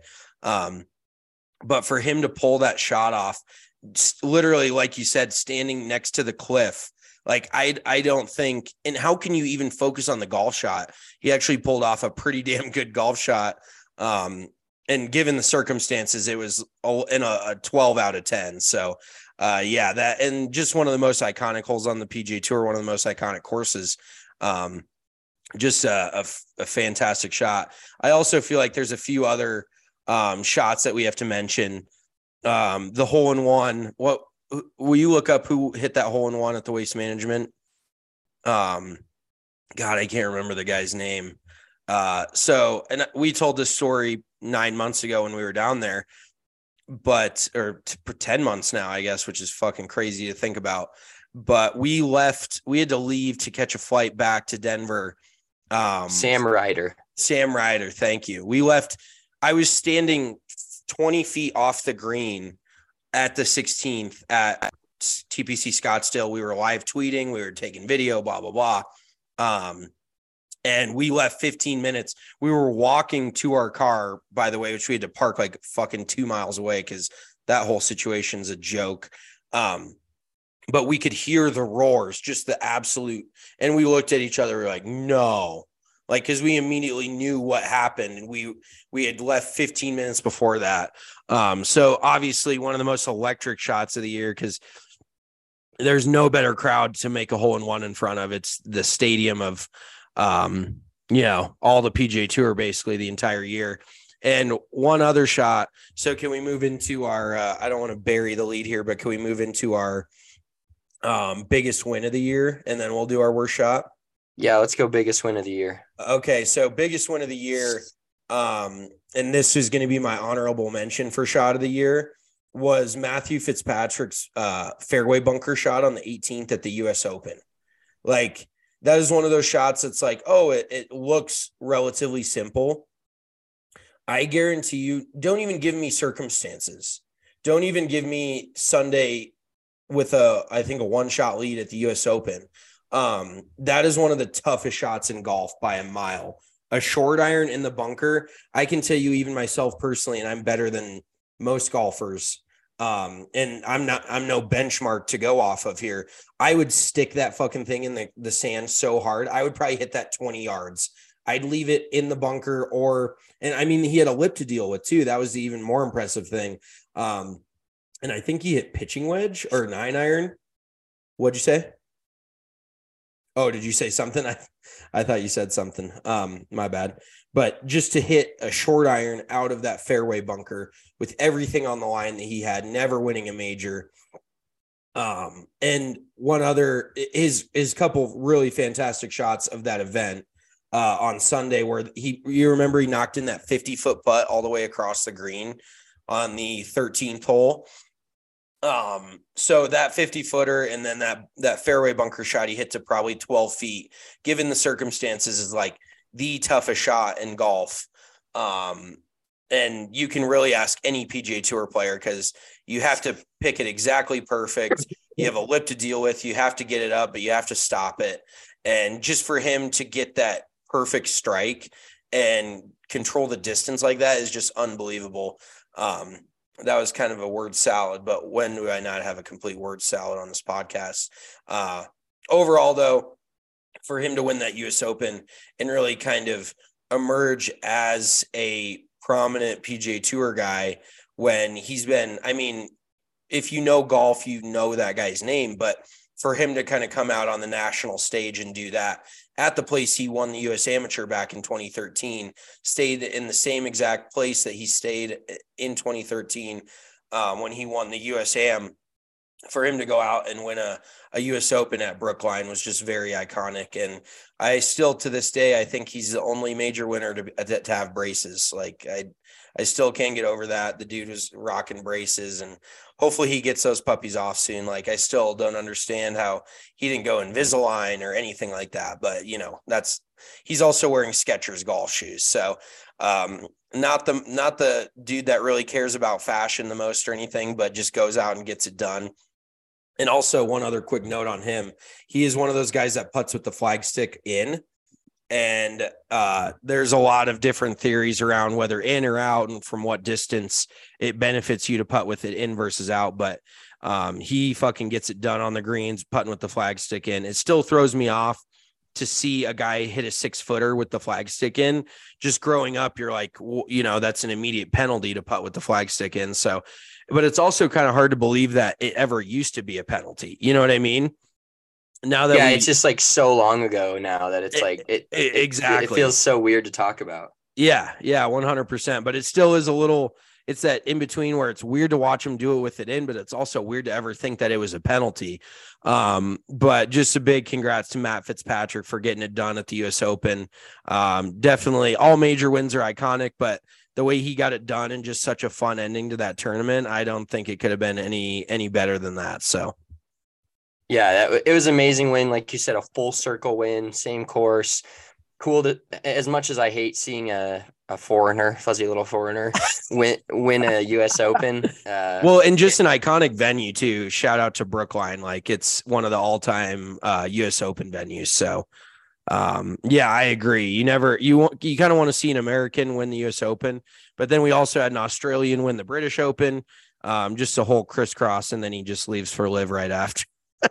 But for him to pull that shot off, literally, like you said, standing next to the cliff, like I don't think, and how can you even focus on the golf shot? He actually pulled off a pretty damn good golf shot. And given the circumstances, it was in a 12 out of 10. So that, and just one of the most iconic holes on the PGA Tour, one of the most iconic courses. Just a fantastic shot. I also feel like there's a few other shots that we have to mention. The hole in one. What will you look up who hit that hole in one at the Waste Management? God, I can't remember the guy's name. And we told this story 9 months ago when we were down there, or 10 months now, I guess, which is fucking crazy to think about. But we had to leave to catch a flight back to Denver. Sam Ryder. Thank you. We left. I was standing 20 feet off the green at the 16th at TPC Scottsdale. We were live tweeting. We were taking video, blah, blah, blah. And we left 15 minutes. We were walking to our car, by the way, which we had to park like fucking 2 miles away because that whole situation's a joke. But we could hear the roars, just the absolute. And we looked at each other. We were like, no, like, because we immediately knew what happened. And we had left 15 minutes before that. So obviously one of the most electric shots of the year, because there's no better crowd to make a hole in one in front of. It's the stadium of, all the PGA Tour, basically the entire year. And one other shot. So can we move into our, I don't want to bury the lead here, but can we move into our biggest win of the year, and then we'll do our worst shot? Yeah, let's go biggest win of the year. Okay, so biggest win of the year, and this is going to be my honorable mention for shot of the year, was Matthew Fitzpatrick's fairway bunker shot on the 18th at the US Open. Like, that is one of those shots that's like, it looks relatively simple. I guarantee you, don't even give me circumstances. Don't even give me Sunday with I think a one-shot lead at the US Open. That is one of the toughest shots in golf by a mile. a short iron in the bunker, I can tell you, even myself personally, and I'm better than most golfers. And I'm no benchmark to go off of here. I would stick that fucking thing in the sand so hard. I would probably hit that 20 yards. I'd leave it in the bunker and I mean, he had a lip to deal with too. That was the even more impressive thing. And I think he hit pitching wedge or 9-iron. What'd you say? Oh, did you say something? I thought you said something. My bad. But just to hit a short iron out of that fairway bunker with everything on the line that he had, never winning a major. And one other, his couple really fantastic shots of that event on Sunday where you remember he knocked in that 50-foot putt all the way across the green on the 13th hole. So that 50-footer and then that fairway bunker shot he hit to probably 12 feet, given the circumstances, is like the toughest shot in golf. And you can really ask any PGA Tour player because you have to pick it exactly perfect. You have a lip to deal with. You have to get it up, but you have to stop it. And just for him to get that perfect strike and control the distance like that is just unbelievable. That was kind of a word salad, but when do I not have a complete word salad on this podcast? Overall, though, for him to win that U.S. Open and really kind of emerge as a prominent PGA Tour guy when he's been, I mean, if you know golf, you know that guy's name, but for him to kind of come out on the national stage and do that at the place he won the U.S. Amateur back in 2013, stayed in the same exact place that he stayed in 2013 when he won the U.S. Am. For him to go out and win a U.S. Open at Brookline was just very iconic. And I still, to this day, I think he's the only major winner to have braces. Like I still can't get over that. The dude was rocking braces, and hopefully he gets those puppies off soon. Like I still don't understand how he didn't go Invisalign or anything like that. But he's also wearing Skechers golf shoes. So not the dude that really cares about fashion the most or anything, but just goes out and gets it done. And also one other quick note on him. He is one of those guys that putts with the flag stick in. And there's a lot of different theories around whether in or out and from what distance it benefits you to putt with it in versus out. But he fucking gets it done on the greens, putting with the flag stick in. It still throws me off to see a guy hit a 6-footer with the flag stick in. Just growing up, you're like, that's an immediate penalty to putt with the flag stick in. So, but it's also kind of hard to believe that it ever used to be a penalty. You know what I mean? Now that it's just like so long ago now that it's exactly. It feels so weird to talk about. Yeah, 100%. But it still is it's that in between where it's weird to watch him do it with it in, but it's also weird to ever think that it was a penalty. But just a big congrats to Matt Fitzpatrick for getting it done at the U.S. Open. Definitely all major wins are iconic, but the way he got it done and just such a fun ending to that tournament, I don't think it could have been any better than that. So. Yeah, it was an amazing win. Like you said, a full circle win, same course. Cool to, as much as I hate seeing a foreigner, fuzzy little foreigner, win a U.S. Open. Well, and just an iconic venue too. Shout out to Brookline. Like it's one of the all-time U.S. Open venues. So, yeah, I agree. You kind of want to see an American win the U.S. Open, but then we also had an Australian win the British Open. Just a whole crisscross, and then he just leaves for live right after.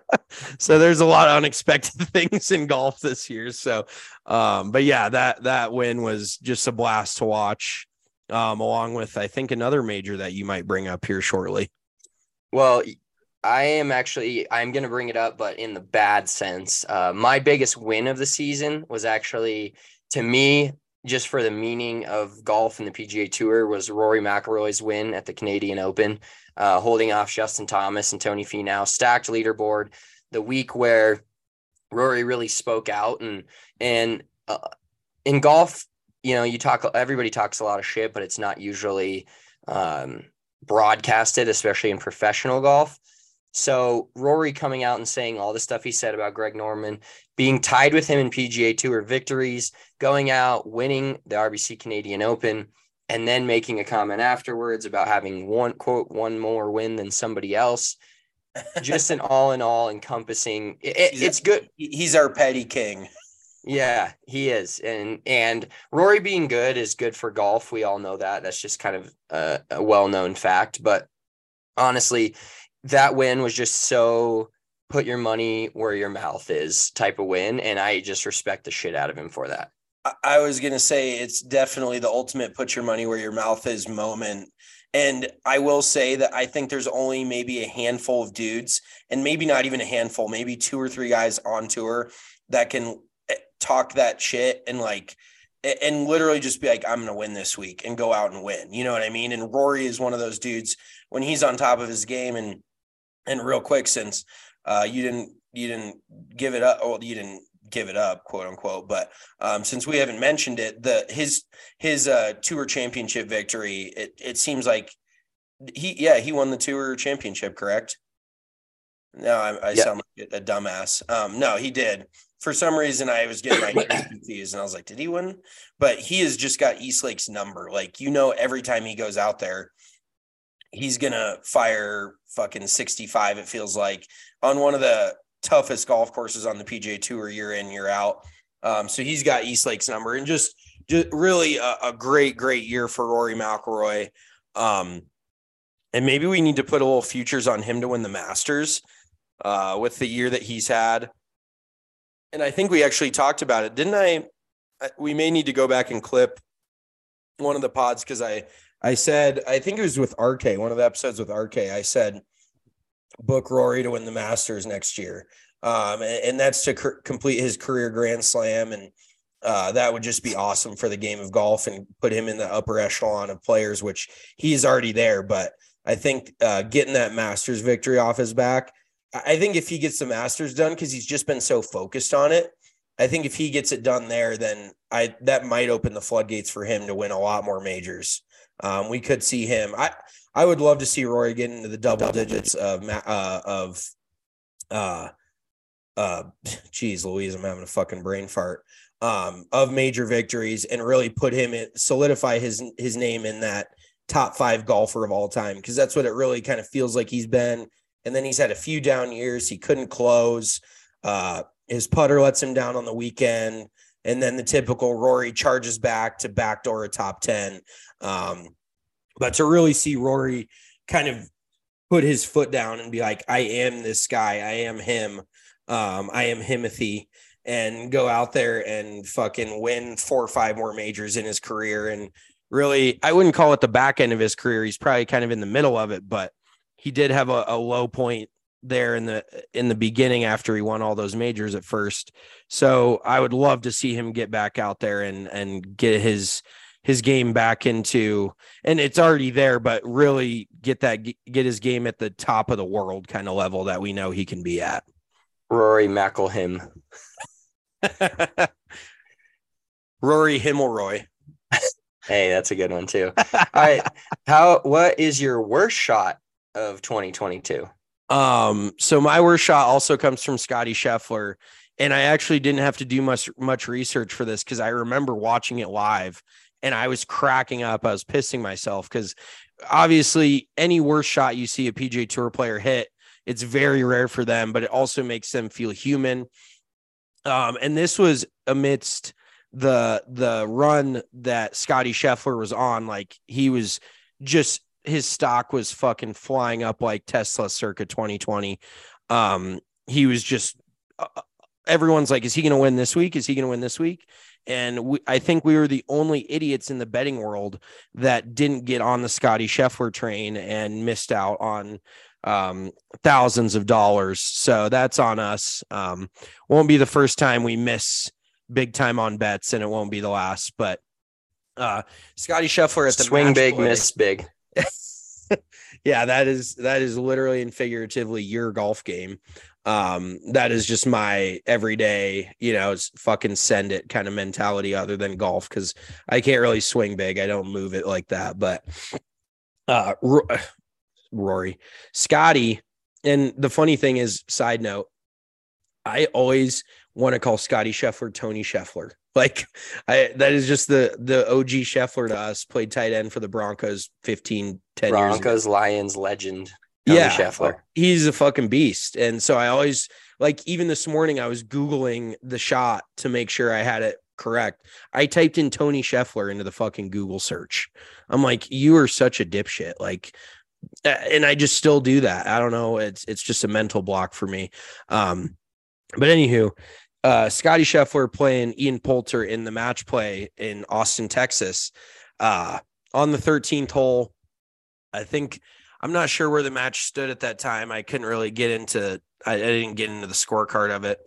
So there's a lot of unexpected things in golf this year. So, but yeah, that win was just a blast to watch, along with, I think, another major that you might bring up here shortly. Well, I'm going to bring it up, but in the bad sense. My biggest win of the season was actually, to me, just for the meaning of golf and the PGA Tour, was Rory McIlroy's win at the Canadian Open, holding off Justin Thomas and Tony Finau. Stacked leaderboard, the week where Rory really spoke out. And in golf, everybody talks a lot of shit, but it's not usually broadcasted, especially in professional golf. So Rory coming out and saying all the stuff he said about Greg Norman, being tied with him in PGA Tour victories, going out, winning the RBC Canadian Open, and then making a comment afterwards about having one more win than somebody else. Just an all in all encompassing. It's good. He's our petty king. Yeah, he is. And Rory being good is good for golf. We all know that. That's just kind of a well-known fact. But honestly, that win was just so put your money where your mouth is type of win. And I just respect the shit out of him for that. I was going to say it's definitely the ultimate put your money where your mouth is moment. And I will say that I think there's only maybe a handful of dudes, and maybe not even a handful, maybe 2 or 3 guys on tour that can talk that shit and literally just be like, I'm going to win this week and go out and win. You know what I mean? And Rory is one of those dudes when he's on top of his game. And real quick, since you didn't give it up. Well, you didn't give it up, quote unquote. But since we haven't mentioned it, his tour championship victory, it seems like he won the tour championship, correct? No, I sound like a dumbass. No, he did. For some reason, I was getting my confused, and I was like, did he win? But he has just got Eastlake's number. Like, every time he goes out there, he's going to fire fucking 65, it feels like, on one of the toughest golf courses on the PGA Tour year in, year out. So he's got Eastlake's number, and just really a great year for Rory McIlroy. And maybe we need to put a little futures on him to win the Masters with the year that he's had. And I think we actually talked about it, didn't I? We may need to go back and clip one of the pods, because I said, I think it was with RK, one of the episodes with RK, I said, book Rory to win the Masters next year. And that's to complete his career Grand Slam. And that would just be awesome for the game of golf and put him in the upper echelon of players, which he's already there. But I think getting that Masters victory off his back, I think if he gets the Masters done, because he's just been so focused on it, I think if he gets it done there, then that might open the floodgates for him to win a lot more majors. We could see him. I would love to see Rory get into the double digits geez Louise, I'm having a fucking brain fart, of major victories, and really put him in, solidify his name in that top 5 golfer of all time. Because that's what it really kind of feels like he's been. And then he's had a few down years. He couldn't close. His putter lets him down on the weekend. And then the typical Rory charges back to backdoor a top 10. But to really see Rory kind of put his foot down and be like, I am this guy. I am him. I am Himothy, and go out there and fucking win 4 or 5 more majors in his career. And really, I wouldn't call it the back end of his career. He's probably kind of in the middle of it, but he did have a low point there in the beginning after he won all those majors at first. So I would love to see him get back out there and get his game back into, and it's already there, but really get his game at the top of the world kind of level that we know he can be at. Rory McIlroy. Rory Himmelroy. Hey, that's a good one too. All right. What is your worst shot of 2022? So my worst shot also comes from Scotty Scheffler, and I actually didn't have to do much research for this, because I remember watching it live and I was cracking up. I was pissing myself, because obviously any worst shot you see a PGA Tour player hit, it's very rare for them, but it also makes them feel human. And this was amidst the run that Scotty Scheffler was on. Like, he was just, his stock was fucking flying up like Tesla circa 2020. He was just, everyone's like, is he going to win this week? Is he going to win this week? And I think we were the only idiots in the betting world that didn't get on the Scotty Scheffler train and missed out on thousands of dollars. So that's on us. Won't be the first time we miss big time on bets, and it won't be the last. But Scotty Scheffler at the swing big, miss big. Yeah, that is literally and figuratively your golf game. That is just my everyday, fucking send it kind of mentality, other than golf, because I can't really swing big. I don't move it like that. But Rory, Scotty, and the funny thing is, side note, I always want to call Scotty Scheffler Tony Scheffler. Like, that is just the OG Scheffler to us. Played tight end for the Broncos 10 years ago. Broncos, Lions legend. Tony Scheffler. He's a fucking beast. And so I always like even this morning, I was Googling the shot to make sure I had it correct. I typed in Tony Scheffler into the fucking Google search. I'm like, you are such a dipshit. Like, and I just still do that. I don't know. It's just a mental block for me. But anywho, Scotty Scheffler playing Ian Poulter in the match play in Austin, Texas, on the 13th hole. I'm not sure where the match stood at that time. I couldn't really get into, I didn't get into the scorecard of it.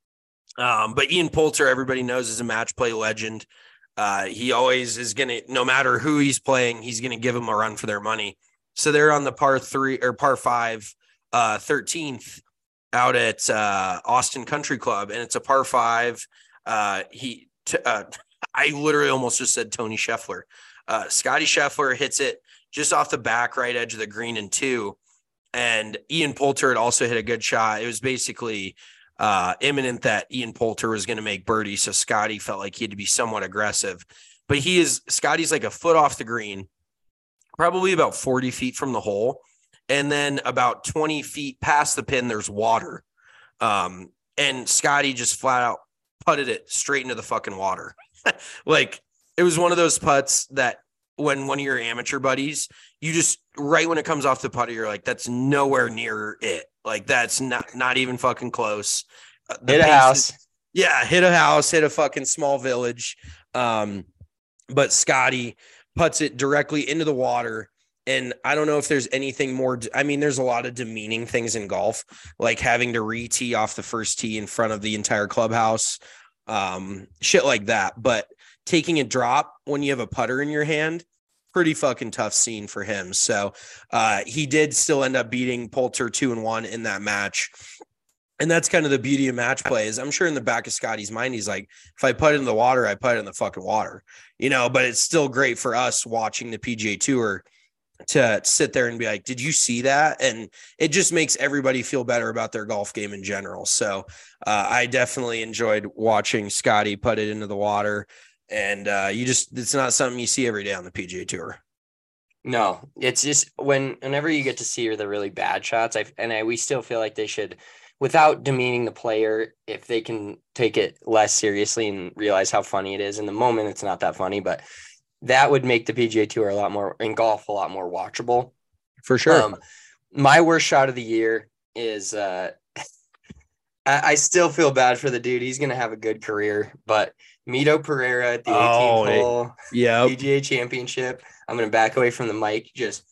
But Ian Poulter, everybody knows, is a match play legend. He always is going to, no matter who he's playing, he's going to give them a run for their money. So they're on the par 5, 13th out at Austin Country Club, and it's a par 5. I literally almost just said Tony Scheffler. Scotty Scheffler hits it just off the back right edge of the green in 2. And Ian Poulter had also hit a good shot. It was basically imminent that Ian Poulter was going to make birdie. So Scotty felt like he had to be somewhat aggressive, but Scotty's like a foot off the green, probably about 40 feet from the hole. And then about 20 feet past the pin, there's water. And Scotty just flat out putted it straight into the fucking water. Like, it was one of those putts that when one of your amateur buddies, you just, right when it comes off the putter, you're like, that's nowhere near it. Like, that's not even fucking close. Hit a house. Hit a house, hit a fucking small village. But Scotty puts it directly into the water. And I don't know if there's anything more. I mean, there's a lot of demeaning things in golf, like having to re-tee off the first tee in front of the entire clubhouse, shit like that. But taking a drop when you have a putter in your hand, pretty fucking tough scene for him. So he did still end up beating Poulter 2-1 in that match. And that's kind of the beauty of match play, is I'm sure in the back of Scotty's mind, he's like, if I put it in the water, I put it in the fucking water, but it's still great for us watching the PGA Tour to sit there and be like, did you see that? And it just makes everybody feel better about their golf game in general. So I definitely enjoyed watching Scotty put it into the water. And it's not something you see every day on the PGA Tour. No, it's just whenever you get to see the really bad shots, we still feel like they should, without demeaning the player, if they can take it less seriously and realize how funny it is. In the moment, it's not that funny, but that would make the PGA Tour a lot more watchable. For sure. My worst shot of the year is I still feel bad for the dude. He's going to have a good career, but Mito Pereira at the 18th hole, PGA Championship. I'm going to back away from the mic. Just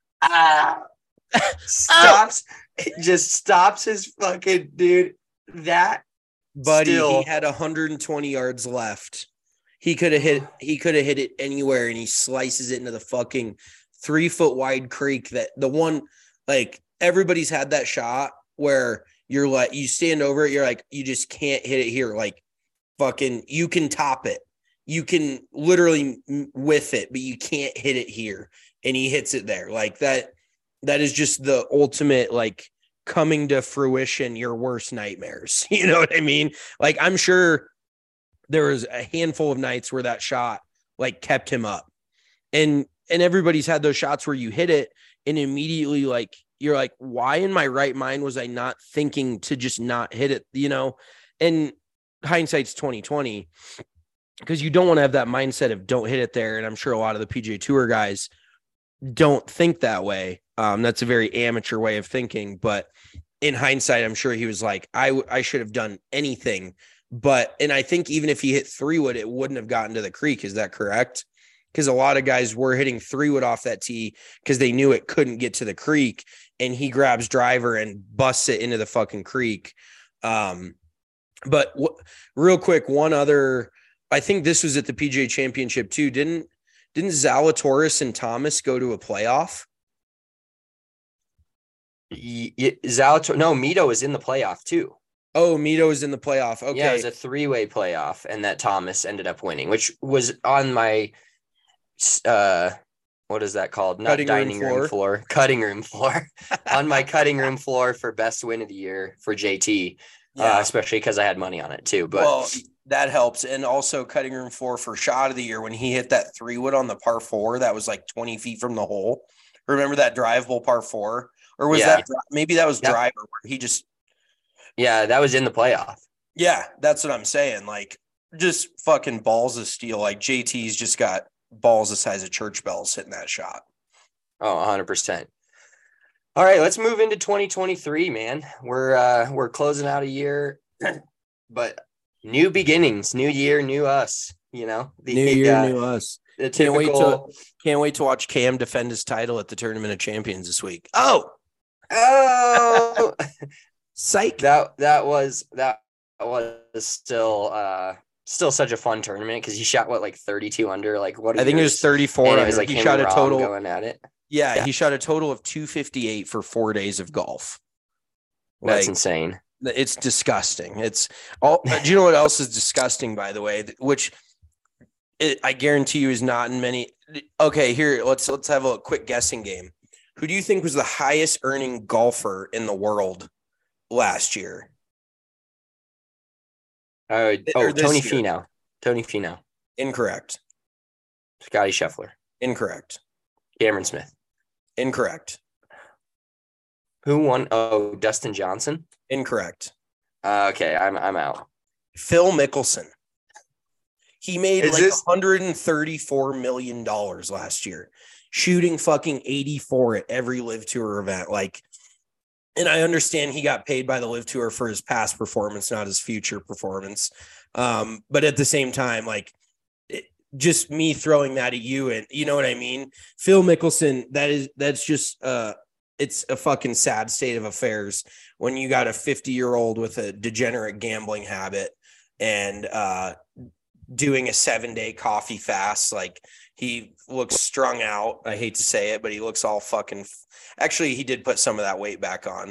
stops his fucking dude. That buddy, he had 120 yards left. He could have hit it anywhere, and he slices it into the fucking 3-foot wide creek. That the one, like, everybody's had that shot where you're like, you stand over it, you're like, you just can't hit it here. Like, fucking, you can top it, you can literally whiff it, but you can't hit it here. And he hits it there. Like, that is just the ultimate, like, coming to fruition your worst nightmares. You know what I mean? Like, I'm sure there was a handful of nights where that shot, like, kept him up. And everybody's had those shots where you hit it and immediately, like, you're like, why in my right mind was I not thinking to just not hit it, And hindsight's 2020, because you don't want to have that mindset of don't hit it there. And I'm sure a lot of the PGA Tour guys don't think that way. That's a very amateur way of thinking. But in hindsight, I'm sure he was like, I should have done anything. And I think even if he hit 3-wood, it wouldn't have gotten to the creek. Is that correct? Because a lot of guys were hitting 3-wood off that tee because they knew it couldn't get to the creek, and he grabs driver and busts it into the fucking creek. But real quick, one other, I think this was at the PGA Championship too. Didn't Zalatoris and Thomas go to a playoff? Mito was in the playoff too. Oh, Mito was in the playoff. Okay. Yeah, it was a 3-way playoff, and that Thomas ended up winning, which was on my what is that called? Not dining room floor. Cutting room floor. On my cutting room floor for best win of the year for JT. Yeah. Especially because I had money on it too. But that helps. And also cutting room floor for shot of the year when he hit that 3-wood on the par 4 that was like 20 feet from the hole. Remember that drivable par 4? Or was that maybe that was driver where he just Yeah, that was in the playoff. Yeah, that's what I'm saying. Like, just fucking balls of steel. Like, JT's just got balls the size of church bells hitting that shot. Oh, 100%. All right, let's move into 2023, man. We're closing out a year, but new beginnings, new year, new us. You know, New year, new us. The Can't typical. wait to watch Cam defend his title at the Tournament of Champions this week. Oh, psych. That was still such a fun tournament because he shot like 32 under. Like what? I think it was 34. And it was like he him shot and a Rob total going at it. Yeah, he shot a total of 258 for 4 days of golf. That's insane. It's disgusting. It's all. Do you know what else is disgusting? By the way, which I guarantee you is not in many. Okay, here let's have a quick guessing game. Who do you think was the highest earning golfer in the world last year? Tony Finau. Tony Finau. Incorrect. Scotty Scheffler. Incorrect. Cameron Smith. Incorrect. Who won? Oh, Dustin Johnson. Incorrect. Okay, I'm out. Phil Mickelson. He made $134 million last year, shooting fucking 84 at every Live Tour event. Like, and I understand he got paid by the Live Tour for his past performance, not his future performance. But at the same time, like, just me throwing that at you, and you know what I mean? Phil Mickelson, that's just it's a fucking sad state of affairs when you got a 50-year-old with a degenerate gambling habit and doing a 7-day coffee fast. Like, he looks strung out. I hate to say it, but he looks all fucking actually, he did put some of that weight back on.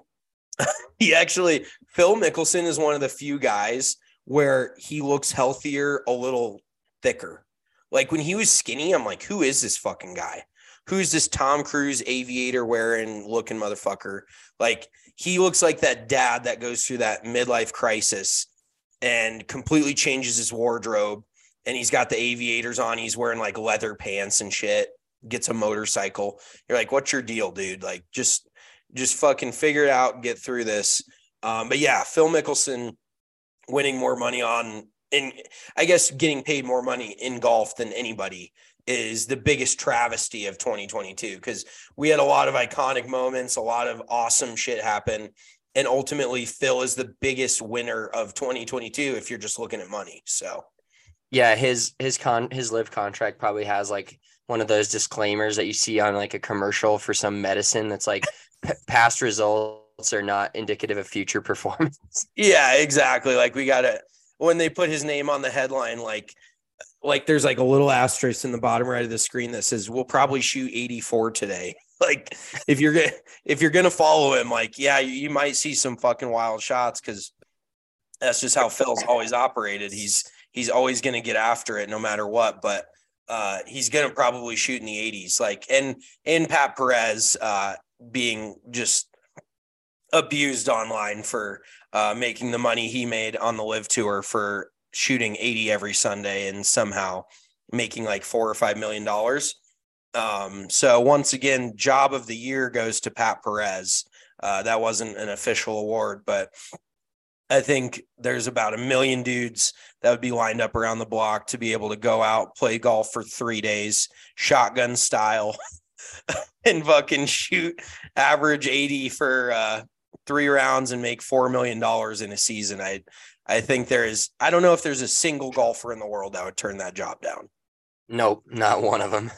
Phil Mickelson is one of the few guys where he looks healthier, a little thicker. Like, when he was skinny, I'm like, who is this fucking guy? Who's this Tom Cruise aviator wearing looking motherfucker? Like, he looks like that dad that goes through that midlife crisis and completely changes his wardrobe. And he's got the aviators on. He's wearing like leather pants and shit, gets a motorcycle. You're like, what's your deal, dude? Like, just fucking figure it out and get through this. But yeah, Phil Mickelson winning more money I guess getting paid more money in golf than anybody is the biggest travesty of 2022, because we had a lot of iconic moments, a lot of awesome shit happen. And ultimately, Phil is the biggest winner of 2022 if you're just looking at money. So, yeah, his Live contract probably has like one of those disclaimers that you see on like a commercial for some medicine that's like past results are not indicative of future performance. Yeah, exactly. Like, we gotta, when they put his name on the headline, like there's like a little asterisk in the bottom right of the screen that says, we'll probably shoot 84 today. Like, if you're going to follow him, like, yeah, you might see some fucking wild shots, because that's just how Phil's always operated. He's always going to get after it no matter what, but he's going to probably shoot in the 80s. Like, and Pat Perez being just abused online for making the money he made on the Live Tour for shooting 80 every Sunday and somehow making like $4 or $5 million. So once again, job of the year goes to Pat Perez. That wasn't an official award, but I think there's about 1 million dudes that would be lined up around the block to be able to go out, play golf for 3 days, shotgun style, and fucking shoot average 80 for 3 rounds and make $4 million in a season. I think I don't know if there's a single golfer in the world that would turn that job down. Nope, not one of them.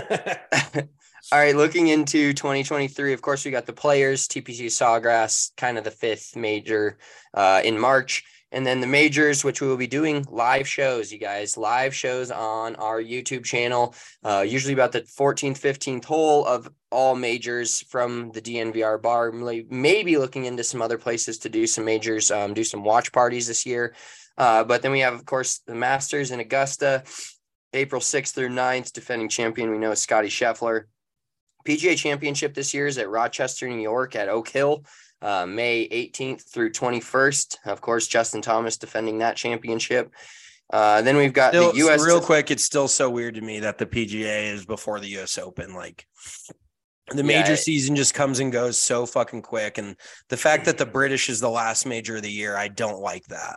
All right, looking into 2023, of course, we got the Players, TPC Sawgrass, kind of the 5th major in March. And then the majors, which we will be doing live shows, you guys, live shows on our YouTube channel, usually about the 14th, 15th hole of all majors from the DNVR bar. Maybe looking into some other places to do some majors, do some watch parties this year. But then we have, of course, the Masters in Augusta, April 6th through 9th, defending champion we know is Scotty Scheffler. PGA Championship this year is at Rochester, New York at Oak Hill, May 18th through 21st. Of course, Justin Thomas defending that championship. Then we've got the U.S. Real quick, it's still so weird to me that the PGA is before the U.S. Open. Like, The major season just comes and goes so fucking quick. And the fact that the British is the last major of the year, I don't like that.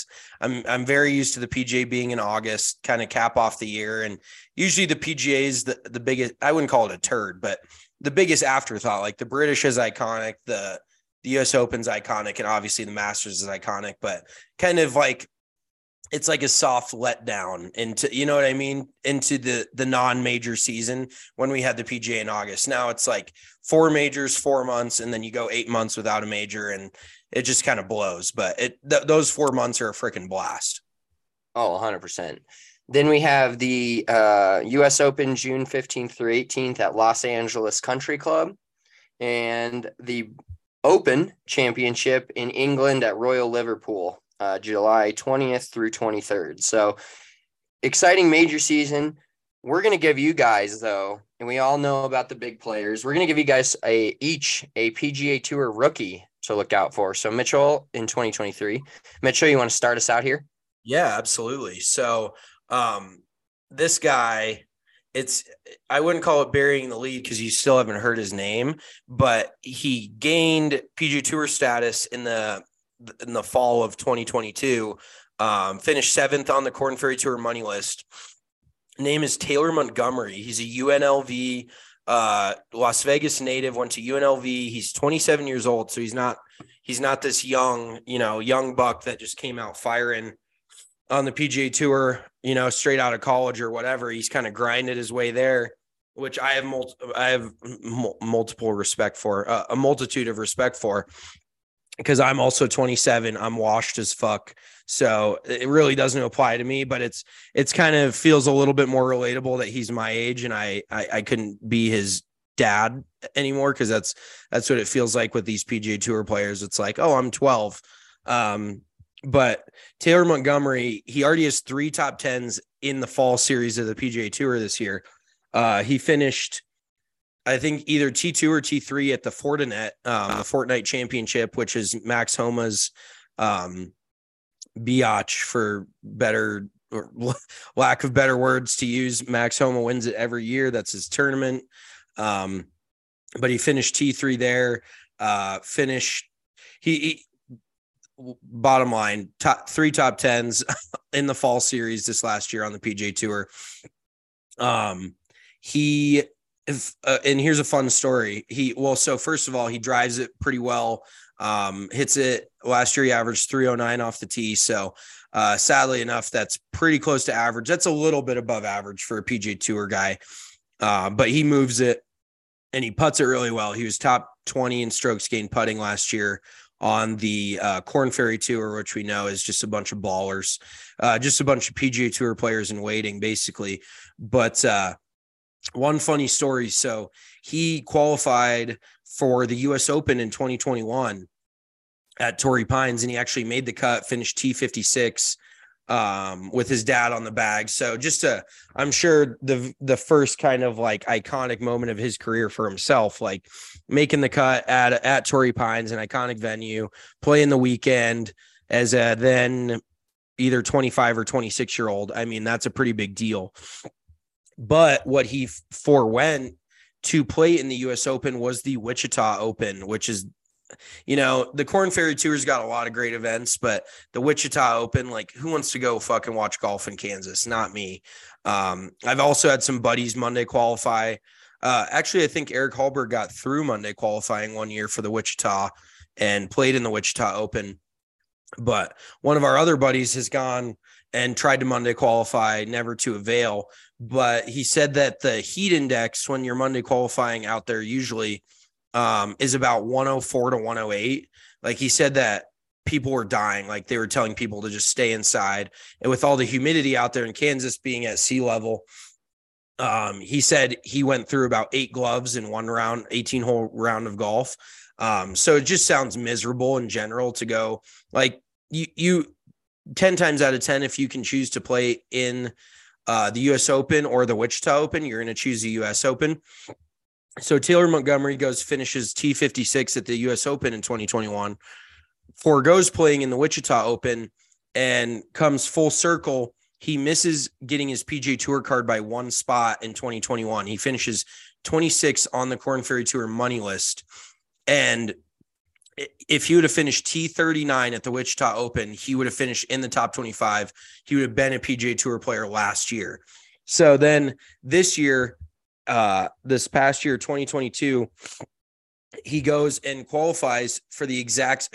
I'm very used to the PGA being in August, kind of cap off the year. And usually the PGA is the biggest, I wouldn't call it a turd, but the biggest afterthought. Like the British is iconic, the US Open's iconic, and obviously the Masters is iconic, but kind of like, it's like a soft letdown into, you know what I mean? Into the non-major season when we had the PGA in August. Now it's like 4 majors, 4 months, and then you go 8 months without a major, and it just kind of blows. But those 4 months are a freaking blast. Oh, 100%. Then we have the US Open June 15th through 18th at Los Angeles Country Club, and the Open Championship in England at Royal Liverpool. July 20th through 23rd. So exciting major season. We're going to give you guys, though, and we all know about the big players. We're going to give you guys each a PGA Tour rookie to look out for. So Mitchell in 2023. Mitchell, you want to start us out here? Yeah, absolutely. So this guy, I wouldn't call it burying the lead because you still haven't heard his name, but he gained PGA Tour status in the fall of 2022, finished 7th on the Korn Ferry Tour money list. Name is Taylor Montgomery. He's a UNLV, Las Vegas native, went to UNLV. He's 27 years old. So he's not this young buck that just came out firing on the PGA Tour, straight out of college or whatever. He's kind of grinded his way there, which I have multiple respect for, a multitude of respect for. Because I'm also 27, I'm washed as fuck. So it really doesn't apply to me, but it's kind of feels a little bit more relatable that he's my age and I couldn't be his dad anymore. Cause that's what it feels like with these PGA Tour players. It's like, oh, I'm 12. But Taylor Montgomery, he already has 3 top 10s in the fall series of the PGA Tour this year. He finished, I think, either T2 or T3 at the Fortinet, the Fortnite Championship, which is Max Homa's biatch, for better or lack of better words to use. Max Homa wins it every year. That's his tournament. But he finished T3 there. He bottom line, 3 top 10s in the fall series this last year on the PGA Tour. And here's a fun story. So first of all, he drives it pretty well. Hits it last year. He averaged 309 off the tee. So sadly enough, that's pretty close to average. That's a little bit above average for a PGA Tour guy. But he moves it and he putts it really well. He was top 20 in strokes gained putting last year on the Korn Ferry Tour, which we know is just a bunch of ballers, just a bunch of PGA Tour players in waiting, basically. But one funny story. So he qualified for the US Open in 2021 at Torrey Pines, and he actually made the cut, finished T56 with his dad on the bag. So I'm sure the first kind of like iconic moment of his career for himself, like making the cut at Torrey Pines, an iconic venue, playing the weekend as a then either 25 or 26-year-old. I mean, that's a pretty big deal. But what he forewent to play in the US Open was the Wichita Open, which is, the Korn Ferry Tour's got a lot of great events, but the Wichita Open, like, who wants to go fucking watch golf in Kansas? Not me. I've also had some buddies Monday qualify. Actually, I think Eric Hallberg got through Monday qualifying one year for the Wichita and played in the Wichita Open. But one of our other buddies has gone and tried to Monday qualify, never to avail. But he said that the heat index when you're Monday qualifying out there usually is about 104 to 108. Like, he said that people were dying. Like, they were telling people to just stay inside. And with all the humidity out there in Kansas being at sea level, he said he went through about 8 gloves in one round, 18-hole round of golf. So it just sounds miserable in general to go. Like, you 10 times out of 10, if you can choose to play in the US Open or the Wichita Open, you're going to choose the US Open. So Taylor Montgomery finishes T56 at the US Open in 2021, forgoes playing in the Wichita Open, and comes full circle. He misses getting his PGA Tour card by 1 spot in 2021. He finishes 26 on the Korn Ferry Tour money list. And if he would have finished T39 at the Wichita Open, he would have finished in the top 25. He would have been a PGA Tour player last year. So then this year, this past year, 2022, he goes and qualifies for the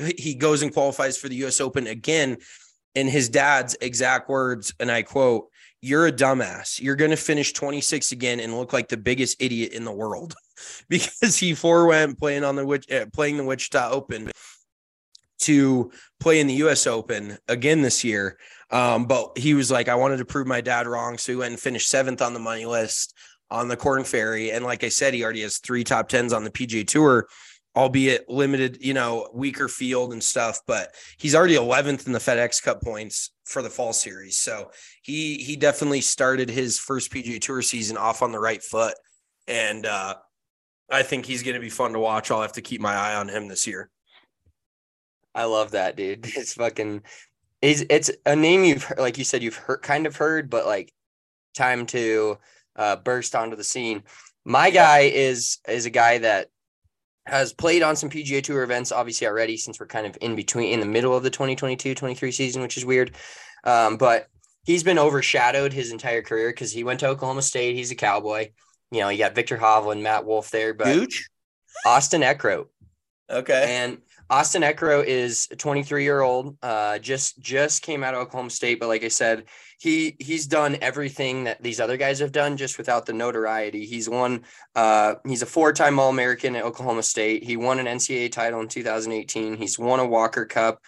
US Open again. In his dad's exact words, and I quote, "You're a dumbass. You're going to finish 26 again and look like the biggest idiot in the world," because he forewent playing the Wichita Open to play in the US Open again this year. But he was like, I wanted to prove my dad wrong. So he went and finished 7th on the money list on the Korn Ferry. And like I said, he already has 3 top 10s on the PGA Tour, albeit limited, weaker field and stuff, but he's already 11th in the FedEx Cup points for the fall series. So he definitely started his first PGA Tour season off on the right foot. And I think he's going to be fun to watch. I'll have to keep my eye on him this year. I love that, dude. It's a name you've heard, like you said, you've heard, but like time to burst onto the scene. My guy is a guy that has played on some PGA Tour events, obviously already, since we're kind of in the middle of the 2022-23 season, which is weird. But he's been overshadowed his entire career because he went to Oklahoma State. He's a Cowboy. You got Viktor Hovland, Matt Wolff there, but Gooch? Austin Eckroat. Okay. And Austin Eckroat is a 23-year-old, just came out of Oklahoma State. But like I said, he's done everything that these other guys have done, just without the notoriety. He's a 4-time All-American at Oklahoma State. He won an NCAA title in 2018. He's won a Walker Cup.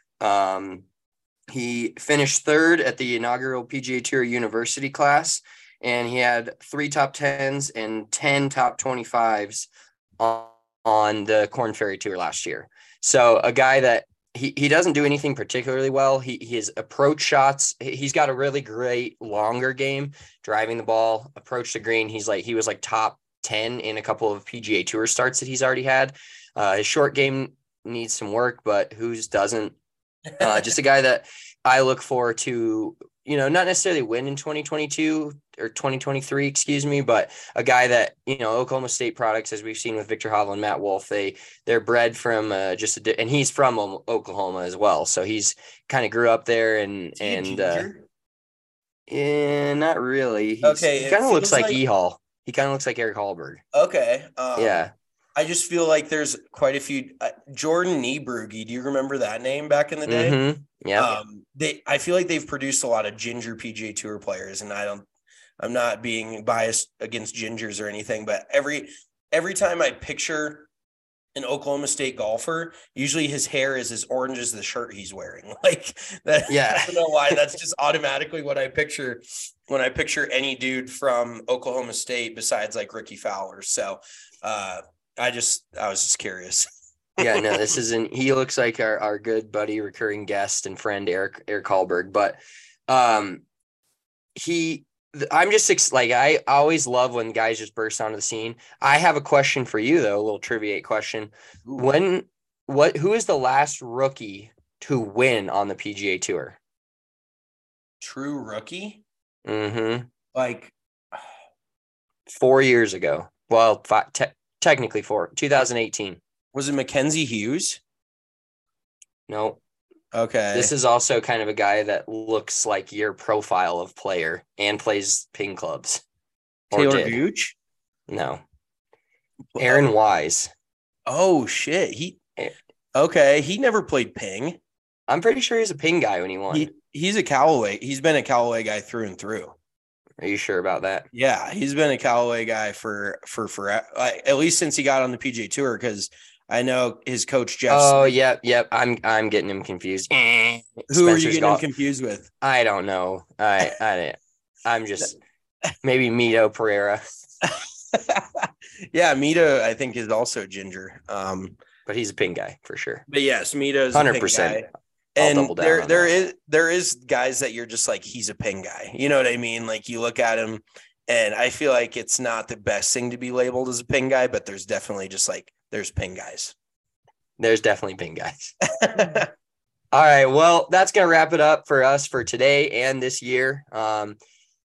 He finished 3rd at the inaugural PGA Tour University class, and he had 3 top 10s and 10 top 25s on the Korn Ferry Tour last year. So a guy that he doesn't do anything particularly well. His approach shots, he's got a really great longer game, driving the ball, approach the green. He was like top 10 in a couple of PGA Tour starts that he's already had. His short game needs some work, but whose doesn't? Just a guy that I look forward to, not necessarily win in 2022 or 2023, excuse me, but a guy that, Oklahoma State products, as we've seen with Viktor Hovland, Matt Wolff, they're bred from and he's from Oklahoma as well. So he's kind of grew up there and not really. Okay. He kind of looks like E-Hall. He kind of looks like Eric Hallberg. Okay. Yeah. I just feel like there's quite a few. Jordan Niebrugge, do you remember that name back in the day? Mm-hmm. Yeah. I feel like they've produced a lot of ginger PGA Tour players, and I'm not being biased against gingers or anything, but every time I picture an Oklahoma State golfer, usually his hair is as orange as the shirt he's wearing. Like that. Yeah. I don't know why. That's just automatically what I picture when I picture any dude from Oklahoma State besides like Ricky Fowler. So, I was just curious. Yeah, no, he looks like our good buddy, recurring guest and friend, Eric Hallberg, but I'm just like, I always love when guys just burst onto the scene. I have a question for you though, a little trivia question. Who is the last rookie to win on the PGA Tour? True rookie? Mm-hmm. Like 4 years ago. Well, technically 2018. Was it Mackenzie Hughes? No. Okay. This is also kind of a guy that looks like your profile of player and plays ping clubs. Taylor Gooch? No. Aaron Wise. Oh, shit. He never played ping. I'm pretty sure he's a ping guy when he won. He's a Callaway. He's been a Callaway guy through and through. Are you sure about that? Yeah, he's been a Callaway guy for at least since he got on the PGA Tour, because I know his coach Jeff. Oh, yep. I'm getting him confused. Who are you getting him confused with? I don't know. I'm just maybe Mito Pereira. Yeah, Mito I think is also ginger. But he's a ping guy for sure. But yes, Mito's 100%. And there is guys that you're just like, he's a ping guy. You know what I mean? Like you look at him, and I feel like it's not the best thing to be labeled as a ping guy, but there's definitely just like, there's ping guys. There's definitely ping guys. All right. Well, that's going to wrap it up for us for today and this year.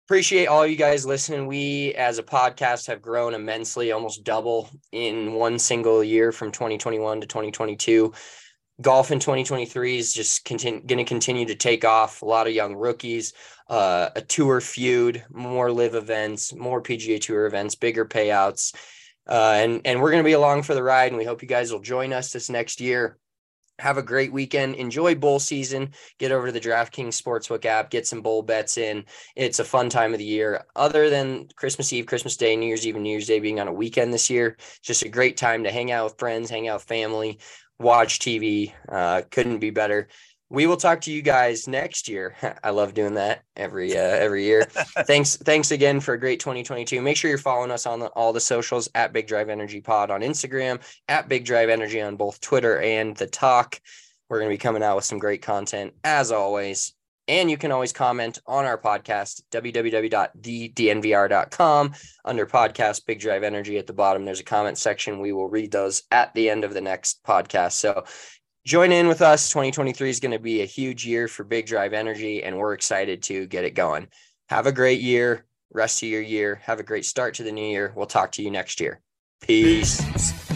appreciate all you guys listening. We, as a podcast, have grown immensely, almost double in one single year from 2021 to 2022. Golf in 2023 is just going to continue to take off. A lot of young rookies, a tour feud, more live events, more PGA Tour events, bigger payouts. And we're going to be along for the ride, and we hope you guys will join us this next year. Have a great weekend. Enjoy bowl season. Get over to the DraftKings Sportsbook app. Get some bowl bets in. It's a fun time of the year. Other than Christmas Eve, Christmas Day, New Year's Eve, and New Year's Day being on a weekend this year, it's just a great time to hang out with friends, hang out with family, watch TV. Couldn't be better. We will talk to you guys next year. I love doing that every year. Thanks again for a great 2022. Make sure you're following us on all the socials at Big Drive Energy Pod on Instagram, at Big Drive Energy on both Twitter and The Talk. We're going to be coming out with some great content as always. And you can always comment on our podcast, www.thednvr.com. Under podcast, Big Drive Energy at the bottom, there's a comment section. We will read those at the end of the next podcast. So join in with us. 2023 is going to be a huge year for Big Drive Energy, and we're excited to get it going. Have a great year, rest of your year. Have a great start to the new year. We'll talk to you next year. Peace.